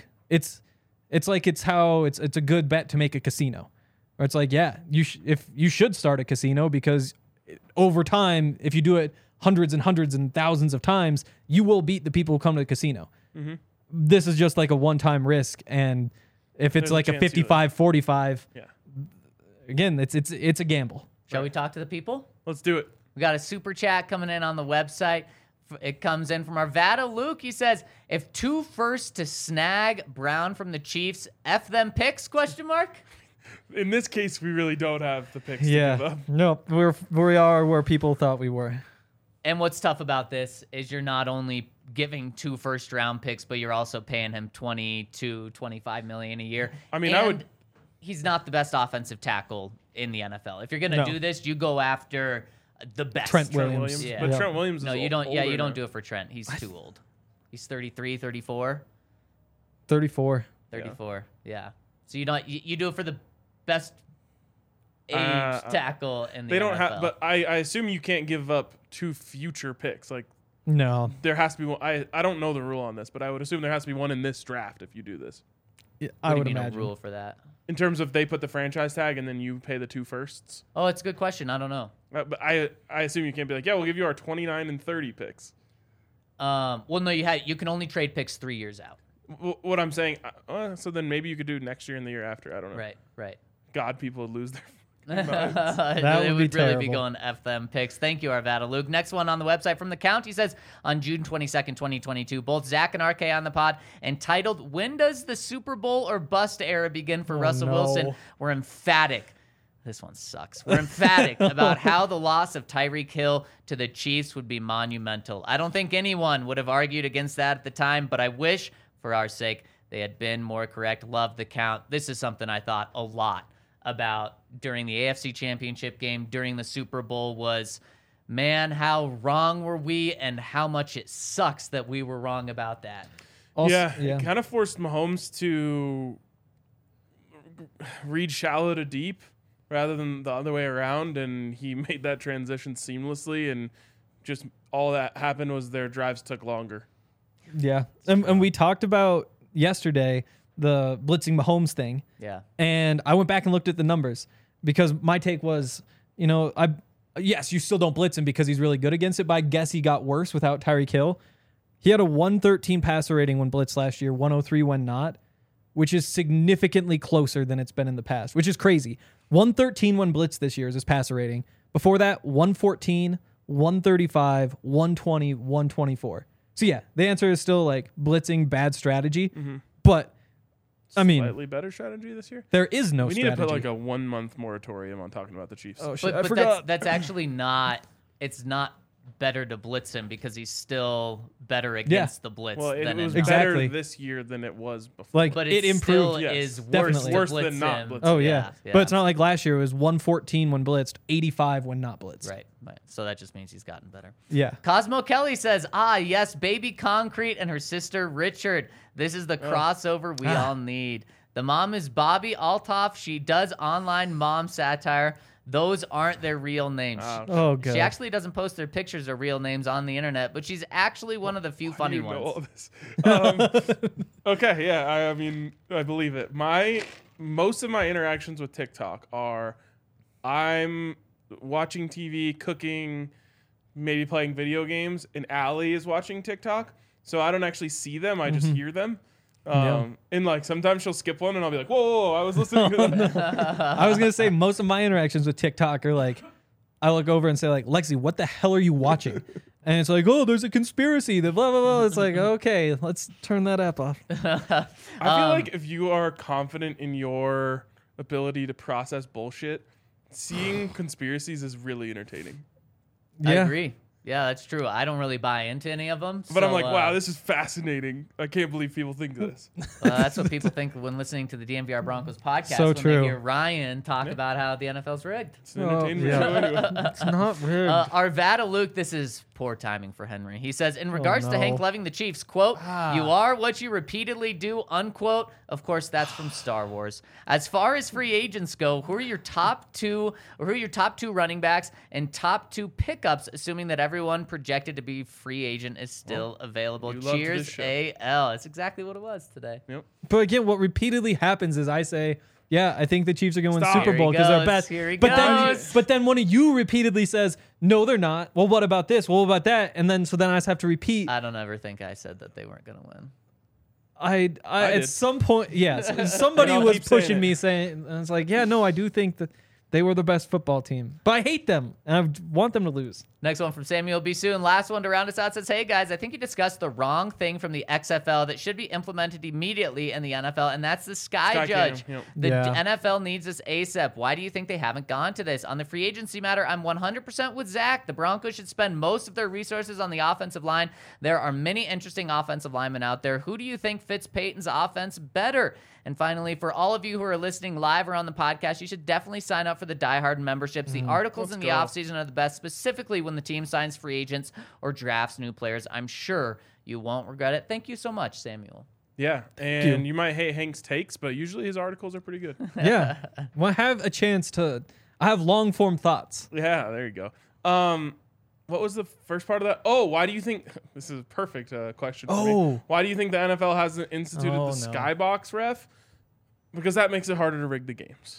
[SPEAKER 3] good bet to make a casino. Or it's like, yeah, if you should start a casino because over time, if you do it hundreds and thousands of times, you will beat the people who come to the casino. This is just like a one-time risk, and if it's
[SPEAKER 2] There's a
[SPEAKER 3] like a
[SPEAKER 2] chance you would.
[SPEAKER 3] 55-45,
[SPEAKER 2] Yeah.
[SPEAKER 3] again, it's a gamble.
[SPEAKER 4] Shall we talk to the people?
[SPEAKER 2] Let's do it.
[SPEAKER 4] We got a super chat coming in on the website. It comes in from Arvada Luke. He says, "If 2 firsts to snag Brown from the Chiefs, F them picks?" ?
[SPEAKER 2] In this case, we really don't have the picks to give
[SPEAKER 3] Yeah.
[SPEAKER 2] up.
[SPEAKER 3] No, we are where people thought we were.
[SPEAKER 4] And what's tough about this is you're not only giving 2 first-round picks, but you're also paying him $22-25 million a year.
[SPEAKER 2] I mean,
[SPEAKER 4] And he's not the best offensive tackle in the NFL. If you're gonna
[SPEAKER 3] No.
[SPEAKER 4] do this, you go after the best.
[SPEAKER 3] Trent
[SPEAKER 2] Trent
[SPEAKER 3] Williams.
[SPEAKER 2] Williams.
[SPEAKER 4] Yeah.
[SPEAKER 2] But
[SPEAKER 3] Yeah.
[SPEAKER 2] Trent Williams
[SPEAKER 4] No,
[SPEAKER 2] is
[SPEAKER 4] you don't. Yeah,
[SPEAKER 2] older
[SPEAKER 4] you don't
[SPEAKER 2] now.
[SPEAKER 4] do it for Trent. He's too old. He's 33, 34.
[SPEAKER 3] 34.
[SPEAKER 4] 34. Yeah. So you do it for the best age
[SPEAKER 2] Uh,
[SPEAKER 4] tackle in the
[SPEAKER 2] They don't
[SPEAKER 4] NFL.
[SPEAKER 2] have, but I assume you can't give up 2 future picks. Like,
[SPEAKER 3] No.
[SPEAKER 2] there has to be one. I don't know the rule on this, but I would assume there has to be one in this draft if you do this.
[SPEAKER 3] I
[SPEAKER 4] What
[SPEAKER 3] would
[SPEAKER 4] do you mean
[SPEAKER 3] imagine.
[SPEAKER 4] a rule for that?
[SPEAKER 2] In terms of they put the franchise tag and then you pay the 2 firsts.
[SPEAKER 4] Oh, it's a good question. I don't know.
[SPEAKER 2] But I assume you can't be like, yeah, we'll give you our 29 and 30 picks.
[SPEAKER 4] Well, no, you can only trade picks 3 years out.
[SPEAKER 2] What I'm saying, so then maybe you could do next year and the year after. I don't know.
[SPEAKER 4] Right.
[SPEAKER 2] God, people would lose their.
[SPEAKER 4] That
[SPEAKER 3] would
[SPEAKER 4] would
[SPEAKER 3] be
[SPEAKER 4] really be
[SPEAKER 3] terrible.
[SPEAKER 4] going F them picks. Thank you, Arvada Luke. Next one on the website from the Count. He says, on June 22nd, 2022, both Zach and RK on the pod entitled, "When does the Super Bowl or bust era begin for Russell
[SPEAKER 3] no.
[SPEAKER 4] Wilson?" We're emphatic. This one sucks. We're emphatic about how the loss of Tyreek Hill to the Chiefs would be monumental. I don't think anyone would have argued against that at the time, but I wish, for our sake, they had been more correct. Love the Count. This is something I thought a lot about during the AFC Championship game, during the Super Bowl, was, man, how wrong were we and how much it sucks that we were wrong about that.
[SPEAKER 3] Also,
[SPEAKER 2] It kind of forced Mahomes to read shallow to deep rather than the other way around, and he made that transition seamlessly, and just all that happened was their drives took longer.
[SPEAKER 3] Yeah. And we talked about yesterday the blitzing Mahomes thing.
[SPEAKER 4] Yeah.
[SPEAKER 3] And I went back and looked at the numbers because my take was, yes, you still don't blitz him because he's really good against it, but I guess he got worse without Tyreek Hill. He had a 113 passer rating when blitzed last year, 103 when not, which is significantly closer than it's been in the past, which is crazy. 113 when blitzed this year is his passer rating. Before that, 114, 135, 120, 124. So yeah, the answer is still like blitzing, bad strategy, but I mean,
[SPEAKER 2] Slightly better strategy this year.
[SPEAKER 3] there is no
[SPEAKER 2] We need
[SPEAKER 3] strategy.
[SPEAKER 2] to put like a 1-month moratorium on talking about the Chiefs.
[SPEAKER 3] Oh shit! I
[SPEAKER 4] But
[SPEAKER 3] forgot.
[SPEAKER 4] that's actually not, it's not better to blitz him because he's still better against the blitz
[SPEAKER 2] well, it
[SPEAKER 4] than
[SPEAKER 2] was
[SPEAKER 4] in
[SPEAKER 3] Exactly.
[SPEAKER 2] better this year than it was before.
[SPEAKER 3] Like
[SPEAKER 4] But
[SPEAKER 3] it
[SPEAKER 4] it
[SPEAKER 3] improved.
[SPEAKER 4] still
[SPEAKER 2] yes,
[SPEAKER 4] is worse,
[SPEAKER 3] definitely.
[SPEAKER 4] to
[SPEAKER 2] Worse
[SPEAKER 4] blitz
[SPEAKER 2] than not
[SPEAKER 4] him.
[SPEAKER 2] blitzing.
[SPEAKER 3] Oh yeah. But it's not like last year. It was 114 when blitzed, 85 when not blitzed.
[SPEAKER 4] Right. So that just means he's gotten better.
[SPEAKER 3] Yeah.
[SPEAKER 4] Cosmo Kelly says, yes, baby Concrete and her sister Richard. This is the crossover we all need. The mom is Bobby Altoff. She does online mom satire. Those aren't their real names.
[SPEAKER 3] Oh god.
[SPEAKER 4] She actually doesn't post their pictures or real names on the internet, but she's actually one of the few funny
[SPEAKER 2] You know all
[SPEAKER 4] ones.
[SPEAKER 2] this. Okay, yeah, I mean, I believe it. Most of my interactions with TikTok are I'm watching TV, cooking, maybe playing video games, and Allie is watching TikTok. So I don't actually see them, I just hear them. And like sometimes she'll skip one and I'll be like, whoa, I was listening to that.
[SPEAKER 3] I was gonna say most of my interactions with TikTok are like, I look over and say like, Lexi, what the hell are you watching? And it's like, oh, there's a conspiracy. The blah blah blah. It's like, okay, let's turn that app off.
[SPEAKER 2] I feel like if you are confident in your ability to process bullshit, seeing conspiracies is really entertaining.
[SPEAKER 4] I
[SPEAKER 3] Yeah.
[SPEAKER 4] agree. Yeah, that's true. I don't really buy into any of them.
[SPEAKER 2] But I'm like, wow, this is fascinating. I can't believe people think this.
[SPEAKER 4] That's what people think when listening to the DNVR Broncos podcast.
[SPEAKER 3] So
[SPEAKER 4] when
[SPEAKER 3] true.
[SPEAKER 4] they hear Ryan talk about how the NFL's rigged.
[SPEAKER 2] It's an entertainment
[SPEAKER 3] yeah.
[SPEAKER 2] show anyway.
[SPEAKER 3] It's not rigged.
[SPEAKER 4] Arvada Luke, this is poor timing for Henry. He says, in regards to
[SPEAKER 3] no.
[SPEAKER 4] Hank loving the Chiefs, quote, you are what you repeatedly do, unquote. Of course, that's from Star Wars. As far as free agents go, who are your top two running backs and top 2 pickups, assuming that everyone projected to be free agent is still available?
[SPEAKER 2] you loved
[SPEAKER 4] Cheers,
[SPEAKER 2] this show.
[SPEAKER 4] AL. That's exactly what it was today.
[SPEAKER 2] Yep.
[SPEAKER 3] But again, what repeatedly happens is I say, yeah, I think the Chiefs are going to win
[SPEAKER 2] Stop.
[SPEAKER 3] Super
[SPEAKER 4] Here
[SPEAKER 3] Bowl
[SPEAKER 4] he
[SPEAKER 3] because they're
[SPEAKER 4] goes.
[SPEAKER 3] best.
[SPEAKER 4] Here he
[SPEAKER 3] but
[SPEAKER 4] goes.
[SPEAKER 3] then one of you repeatedly says, no, they're not. Well, what about this? Well, what about that? And then so then I just have to repeat.
[SPEAKER 4] I don't ever think I said that they weren't going to win.
[SPEAKER 3] I at
[SPEAKER 2] did.
[SPEAKER 3] some point, yes, somebody
[SPEAKER 2] And I'll
[SPEAKER 3] was
[SPEAKER 2] keep saying
[SPEAKER 3] pushing
[SPEAKER 2] it.
[SPEAKER 3] me saying, and it's like, yeah, no, I do think that they were the best football team, but I hate them and I want them to lose.
[SPEAKER 4] Next one from Samuel B. Soon. Last one to round us out says, hey guys, I think you discussed the wrong thing from the XFL that should be implemented immediately in the NFL, and that's the Sky Judge.
[SPEAKER 2] Cam, yep.
[SPEAKER 4] The
[SPEAKER 3] Yeah.
[SPEAKER 4] NFL needs this ASAP. Why do you think they haven't gone to this? On the free agency matter, I'm 100% with Zach. The Broncos should spend most of their resources on the offensive line. There are many interesting offensive linemen out there. Who do you think fits Peyton's offense better? And finally, for all of you who are listening live or on the podcast, you should definitely sign up for the Die Hard memberships. The articles in the offseason are the best, specifically when the team signs free agents or drafts new players. I'm sure you won't regret it. Thank you so much, Samuel.
[SPEAKER 2] Yeah, and you might hate Hank's takes, but usually his articles are pretty good.
[SPEAKER 3] Yeah, well, I have a chance to. I have long form thoughts.
[SPEAKER 2] Yeah, there you go. What was the first part of that? Oh, why do you think this is a perfect question for me?
[SPEAKER 3] Oh.
[SPEAKER 2] Why do you think the NFL hasn't instituted
[SPEAKER 3] Oh,
[SPEAKER 2] the
[SPEAKER 3] no.
[SPEAKER 2] skybox ref? Because that makes it harder to rig the games.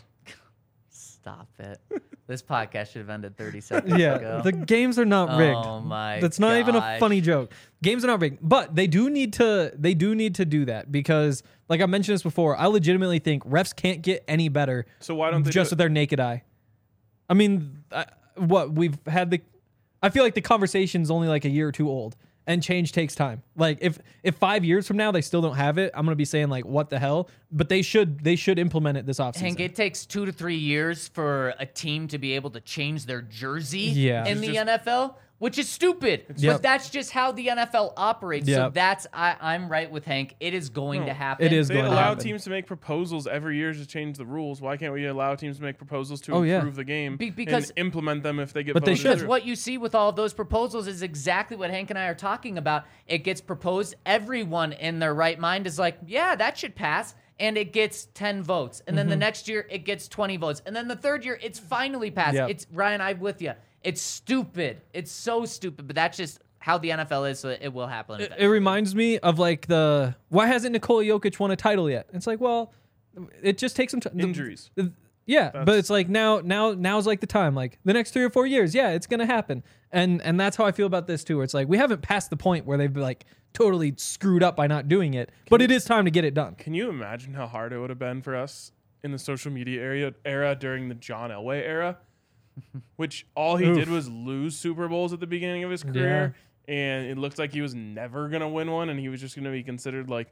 [SPEAKER 4] Stop it. This podcast should have ended 30 seconds
[SPEAKER 3] Yeah,
[SPEAKER 4] ago.
[SPEAKER 3] the games are not rigged.
[SPEAKER 4] Oh my
[SPEAKER 3] That's not even a
[SPEAKER 4] gosh.
[SPEAKER 3] funny joke. Games are not rigged, but they do need to. They do need to do that because, like I mentioned this before, I legitimately think refs can't get any better
[SPEAKER 2] So why don't they
[SPEAKER 3] just
[SPEAKER 2] do
[SPEAKER 3] with their naked eye. I mean, what we've had the. I feel like the conversation's only like a year or two old, and change takes time. Like if 5 years from now they still don't have it, I'm gonna be saying like, what the hell? But they should implement it this offseason.
[SPEAKER 4] Hank, it takes 2 to 3 years for a team to be able to change their jersey
[SPEAKER 3] Yeah.
[SPEAKER 4] in the
[SPEAKER 2] Just-
[SPEAKER 4] NFL, which is stupid.
[SPEAKER 3] Yep.
[SPEAKER 4] But that's just how the NFL operates. So
[SPEAKER 3] Yep.
[SPEAKER 4] that's I'm right with Hank. It is going to happen.
[SPEAKER 3] It is
[SPEAKER 2] They
[SPEAKER 3] going to
[SPEAKER 2] allow
[SPEAKER 3] happen.
[SPEAKER 2] teams to make proposals every year to change the rules. Why can't we allow teams to make proposals to
[SPEAKER 3] Oh, yeah.
[SPEAKER 2] improve the game
[SPEAKER 4] Because-
[SPEAKER 2] and implement them if they get
[SPEAKER 3] But they
[SPEAKER 2] voted
[SPEAKER 3] should.
[SPEAKER 4] Because
[SPEAKER 2] through?
[SPEAKER 4] what you see with all of those proposals is exactly what Hank and I are talking about. It gets proposed. Everyone in their right mind is like, yeah, that should pass. And it gets 10 votes. And then the next year, it gets 20 votes. And then the third year, it's finally passed.
[SPEAKER 3] Yep.
[SPEAKER 4] It's Ryan, I'm with you. It's stupid. It's so stupid. But that's just how the NFL is, so it will happen.
[SPEAKER 3] It reminds me of like why hasn't Nikola Jokic won a title yet? It's like, well, it just takes some time.
[SPEAKER 2] Injuries.
[SPEAKER 3] Yeah, but it's like now's like the time. Like the next 3 or 4 years, yeah, it's gonna happen. And that's how I feel about this too. Where it's like we haven't passed the point where they've like totally screwed up by not doing it, but it is time to get it done.
[SPEAKER 2] Can you imagine how hard it would have been for us in the social media era during the John Elway era? Which all he did was lose Super Bowls at the beginning of his career, and it looked like he was never gonna win one, and he was just gonna be considered like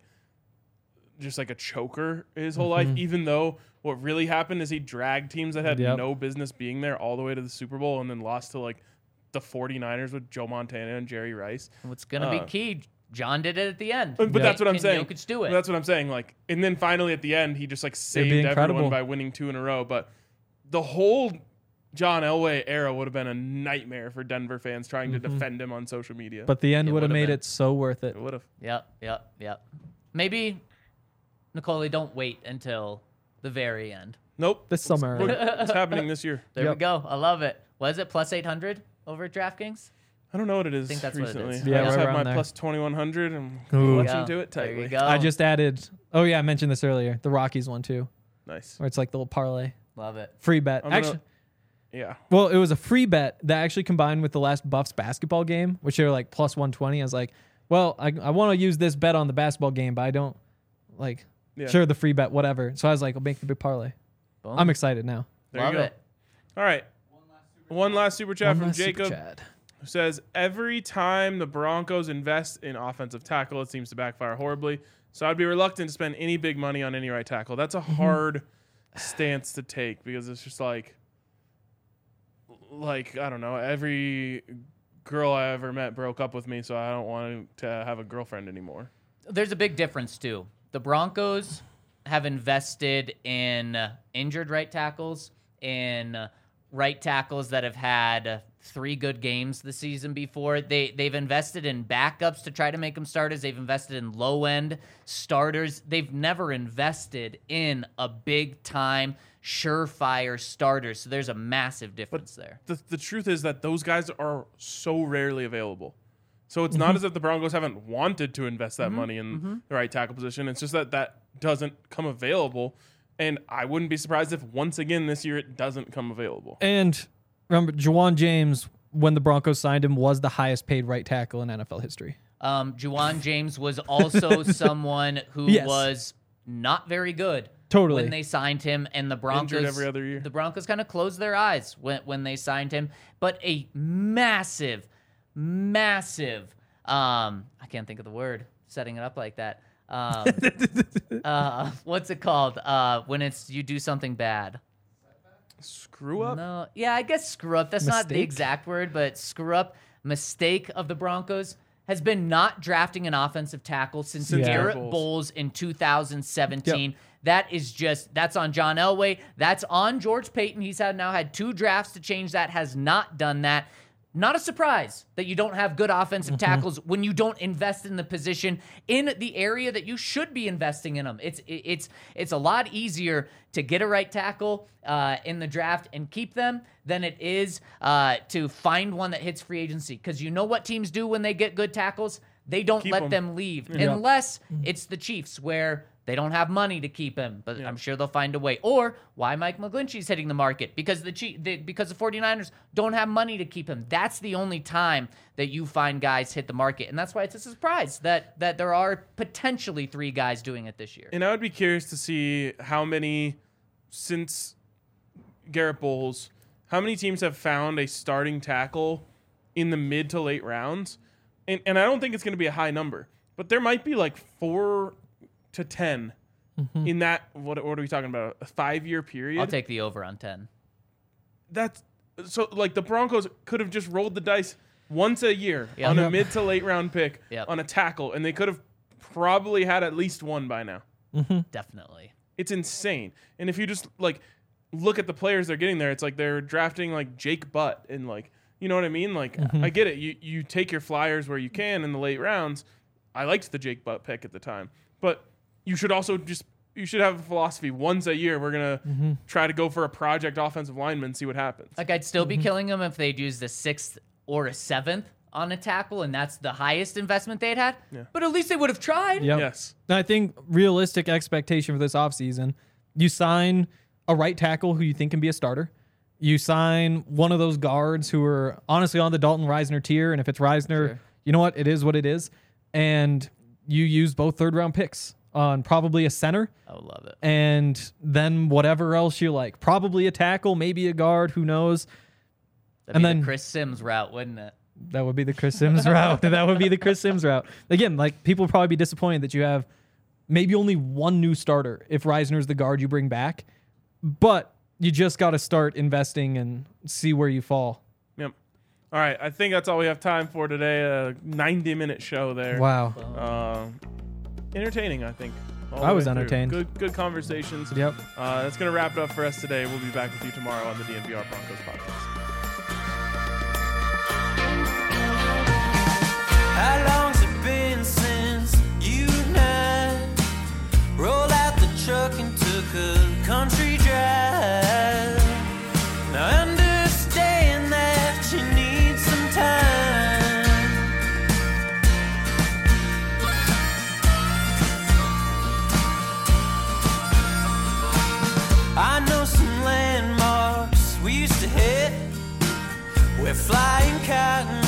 [SPEAKER 2] just like a choker his whole life. Even though what really happened is he dragged teams that had
[SPEAKER 3] Yep.
[SPEAKER 2] no business being there all the way to the Super Bowl, and then lost to like the 49ers with Joe Montana and Jerry Rice.
[SPEAKER 4] What's going to be key, John did it at the end.
[SPEAKER 2] But that's what I'm
[SPEAKER 4] Can
[SPEAKER 2] saying.
[SPEAKER 4] Jokic do it?
[SPEAKER 2] That's what I'm saying. Like, and then finally at the end, he just like saved
[SPEAKER 3] incredible.
[SPEAKER 2] everyone by winning 2 in a row. But the whole John Elway era would have been a nightmare for Denver fans trying to defend him on social media.
[SPEAKER 3] But the end
[SPEAKER 4] It
[SPEAKER 3] would have
[SPEAKER 4] would've
[SPEAKER 3] made
[SPEAKER 4] been.
[SPEAKER 3] it so worth it.
[SPEAKER 2] it would have.
[SPEAKER 4] Yep. Maybe, Nicole, don't wait until the very end.
[SPEAKER 2] Nope.
[SPEAKER 3] This summer.
[SPEAKER 2] Look, it's happening this year.
[SPEAKER 4] There we
[SPEAKER 3] Yep.
[SPEAKER 4] go. I love it. Was it plus 800 over at DraftKings?
[SPEAKER 2] I don't know what it is
[SPEAKER 4] think that's what it
[SPEAKER 2] recently.
[SPEAKER 4] is.
[SPEAKER 3] Yeah,
[SPEAKER 2] I just
[SPEAKER 3] right
[SPEAKER 2] have my
[SPEAKER 3] around there.
[SPEAKER 2] plus 2100 and
[SPEAKER 3] Ooh.
[SPEAKER 2] watching
[SPEAKER 4] Yeah.
[SPEAKER 2] to it
[SPEAKER 4] There
[SPEAKER 2] tightly.
[SPEAKER 4] you go.
[SPEAKER 3] I just added. Oh yeah, I mentioned this earlier. The Rockies one too,
[SPEAKER 2] Nice.
[SPEAKER 3] where it's like the little parlay,
[SPEAKER 4] love it.
[SPEAKER 3] free bet.
[SPEAKER 2] I'm gonna-
[SPEAKER 3] Actually,
[SPEAKER 2] Yeah.
[SPEAKER 3] well, it was a free bet that actually combined with the last Buffs basketball game, which they were like plus 120. I was like, well, I want to use this bet on the basketball game, but I don't like.
[SPEAKER 2] Yeah.
[SPEAKER 3] Sure, the free bet, whatever. So I was like, I'll make the big parlay.
[SPEAKER 4] Boom.
[SPEAKER 3] I'm excited now.
[SPEAKER 2] There
[SPEAKER 4] love
[SPEAKER 2] you go.
[SPEAKER 4] it.
[SPEAKER 2] All right. One last super chat
[SPEAKER 3] One
[SPEAKER 2] from
[SPEAKER 3] last super
[SPEAKER 2] Jacob.
[SPEAKER 3] chat.
[SPEAKER 2] Who says every time the Broncos invest in offensive tackle, it seems to backfire horribly. So I'd be reluctant to spend any big money on any right tackle. That's a hard stance to take because it's just like I don't know, every girl I ever met broke up with me, so I don't want to have a girlfriend anymore.
[SPEAKER 4] There's a big difference, too. The Broncos have invested in injured right tackles, in right tackles that have had 3 good games the season before. They've invested in backups to try to make them starters. They've invested in low-end starters. They've never invested in a big-time, surefire starter. So there's a massive difference there.
[SPEAKER 2] The truth is that those guys are so rarely available. So it's not as if the Broncos haven't wanted to invest that money in the right tackle position. It's just that doesn't come available. And I wouldn't be surprised if once again this year it doesn't come available.
[SPEAKER 3] And remember, Juwan James, when the Broncos signed him, was the highest paid right tackle in NFL history.
[SPEAKER 4] Juwan James was also someone who was not very good.
[SPEAKER 3] Totally.
[SPEAKER 4] When they signed him, and the Broncos
[SPEAKER 2] Injured every other year.
[SPEAKER 4] The Broncos kind of closed their eyes when they signed him. But a massive, I can't think of the word, setting it up like that. What's it called? When you do something bad.
[SPEAKER 2] Screw up?
[SPEAKER 4] No, yeah, I guess screw up. That's not the
[SPEAKER 3] Mistake?
[SPEAKER 4] exact word, but screw up. Mistake of the Broncos has been not drafting an offensive tackle since Garrett Bowles in 2017.
[SPEAKER 3] Yep.
[SPEAKER 4] That's on John Elway. That's on George Payton. He's now had 2 drafts to change that, has not done that. Not a surprise that you don't have good offensive tackles when you don't invest in the position in the area that you should be investing in them. It's a lot easier to get a right tackle in the draft and keep them than it is to find one that hits free agency. Because you know what teams do when they get good tackles? They don't let them leave unless it's the Chiefs, where they don't have money to keep him, but I'm sure they'll find a way. Or why Mike McGlinchey's hitting the market, because the 49ers don't have money to keep him. That's the only time that you find guys hit the market, and that's why it's a surprise that there are potentially 3 guys doing it this year.
[SPEAKER 2] And I would be curious to see how many, since Garrett Bowles, how many teams have found a starting tackle in the mid to late rounds. And I don't think it's going to be a high number, but there might be like 4 to 10 in that, what are we talking about, a 5-year period?
[SPEAKER 4] I'll take the over on 10.
[SPEAKER 2] That's so, like, the Broncos could have just rolled the dice once a year on a mid to late round pick on a tackle, and they could have probably had at least one by now.
[SPEAKER 4] Definitely.
[SPEAKER 2] It's insane. And if you just like look at the players they're getting there, it's like they're drafting like Jake Butt and like, you know what I mean? Like, I get it. You take your flyers where you can in the late rounds. I liked the Jake Butt pick at the time, but you should also you should have a philosophy. Once a year, we're going to try to go for a project offensive lineman and see what happens.
[SPEAKER 4] Like, I'd still be killing them if they'd used a 6th or a 7th on a tackle, and that's the highest investment they'd had. Yeah. But at least they would have tried.
[SPEAKER 3] Yep.
[SPEAKER 2] Yes.
[SPEAKER 3] And I think realistic expectation for this offseason, you sign a right tackle who you think can be a starter. You sign one of those guards who are honestly on the Dalton Reisner tier, and if it's Reisner, you know what? It is what it is. And you use both 3rd-round picks on probably a center.
[SPEAKER 4] I would love it.
[SPEAKER 3] And then whatever else you like. Probably a tackle, maybe a guard, who knows.
[SPEAKER 4] That'd be the Chris Sims route, wouldn't it?
[SPEAKER 3] That would be the Chris Sims route. That would be the Chris Sims route. Again, like, people will probably be disappointed that you have maybe only one new starter if Reisner's the guard you bring back. But you just got to start investing and see where you fall.
[SPEAKER 2] Yep. All right. I think that's all we have time for today. A 90-minute show there.
[SPEAKER 3] Wow.
[SPEAKER 2] Entertaining, I think.
[SPEAKER 3] I was entertained.
[SPEAKER 2] Good conversations.
[SPEAKER 3] Yep.
[SPEAKER 2] That's going to wrap it up for us today. We'll be back with you tomorrow on the DNVR Broncos podcast.
[SPEAKER 1] How long's it been since you and I rolled out the truck and took a country drive? Now I understand that you need some time. I know some landmarks we used to hit where flying cotton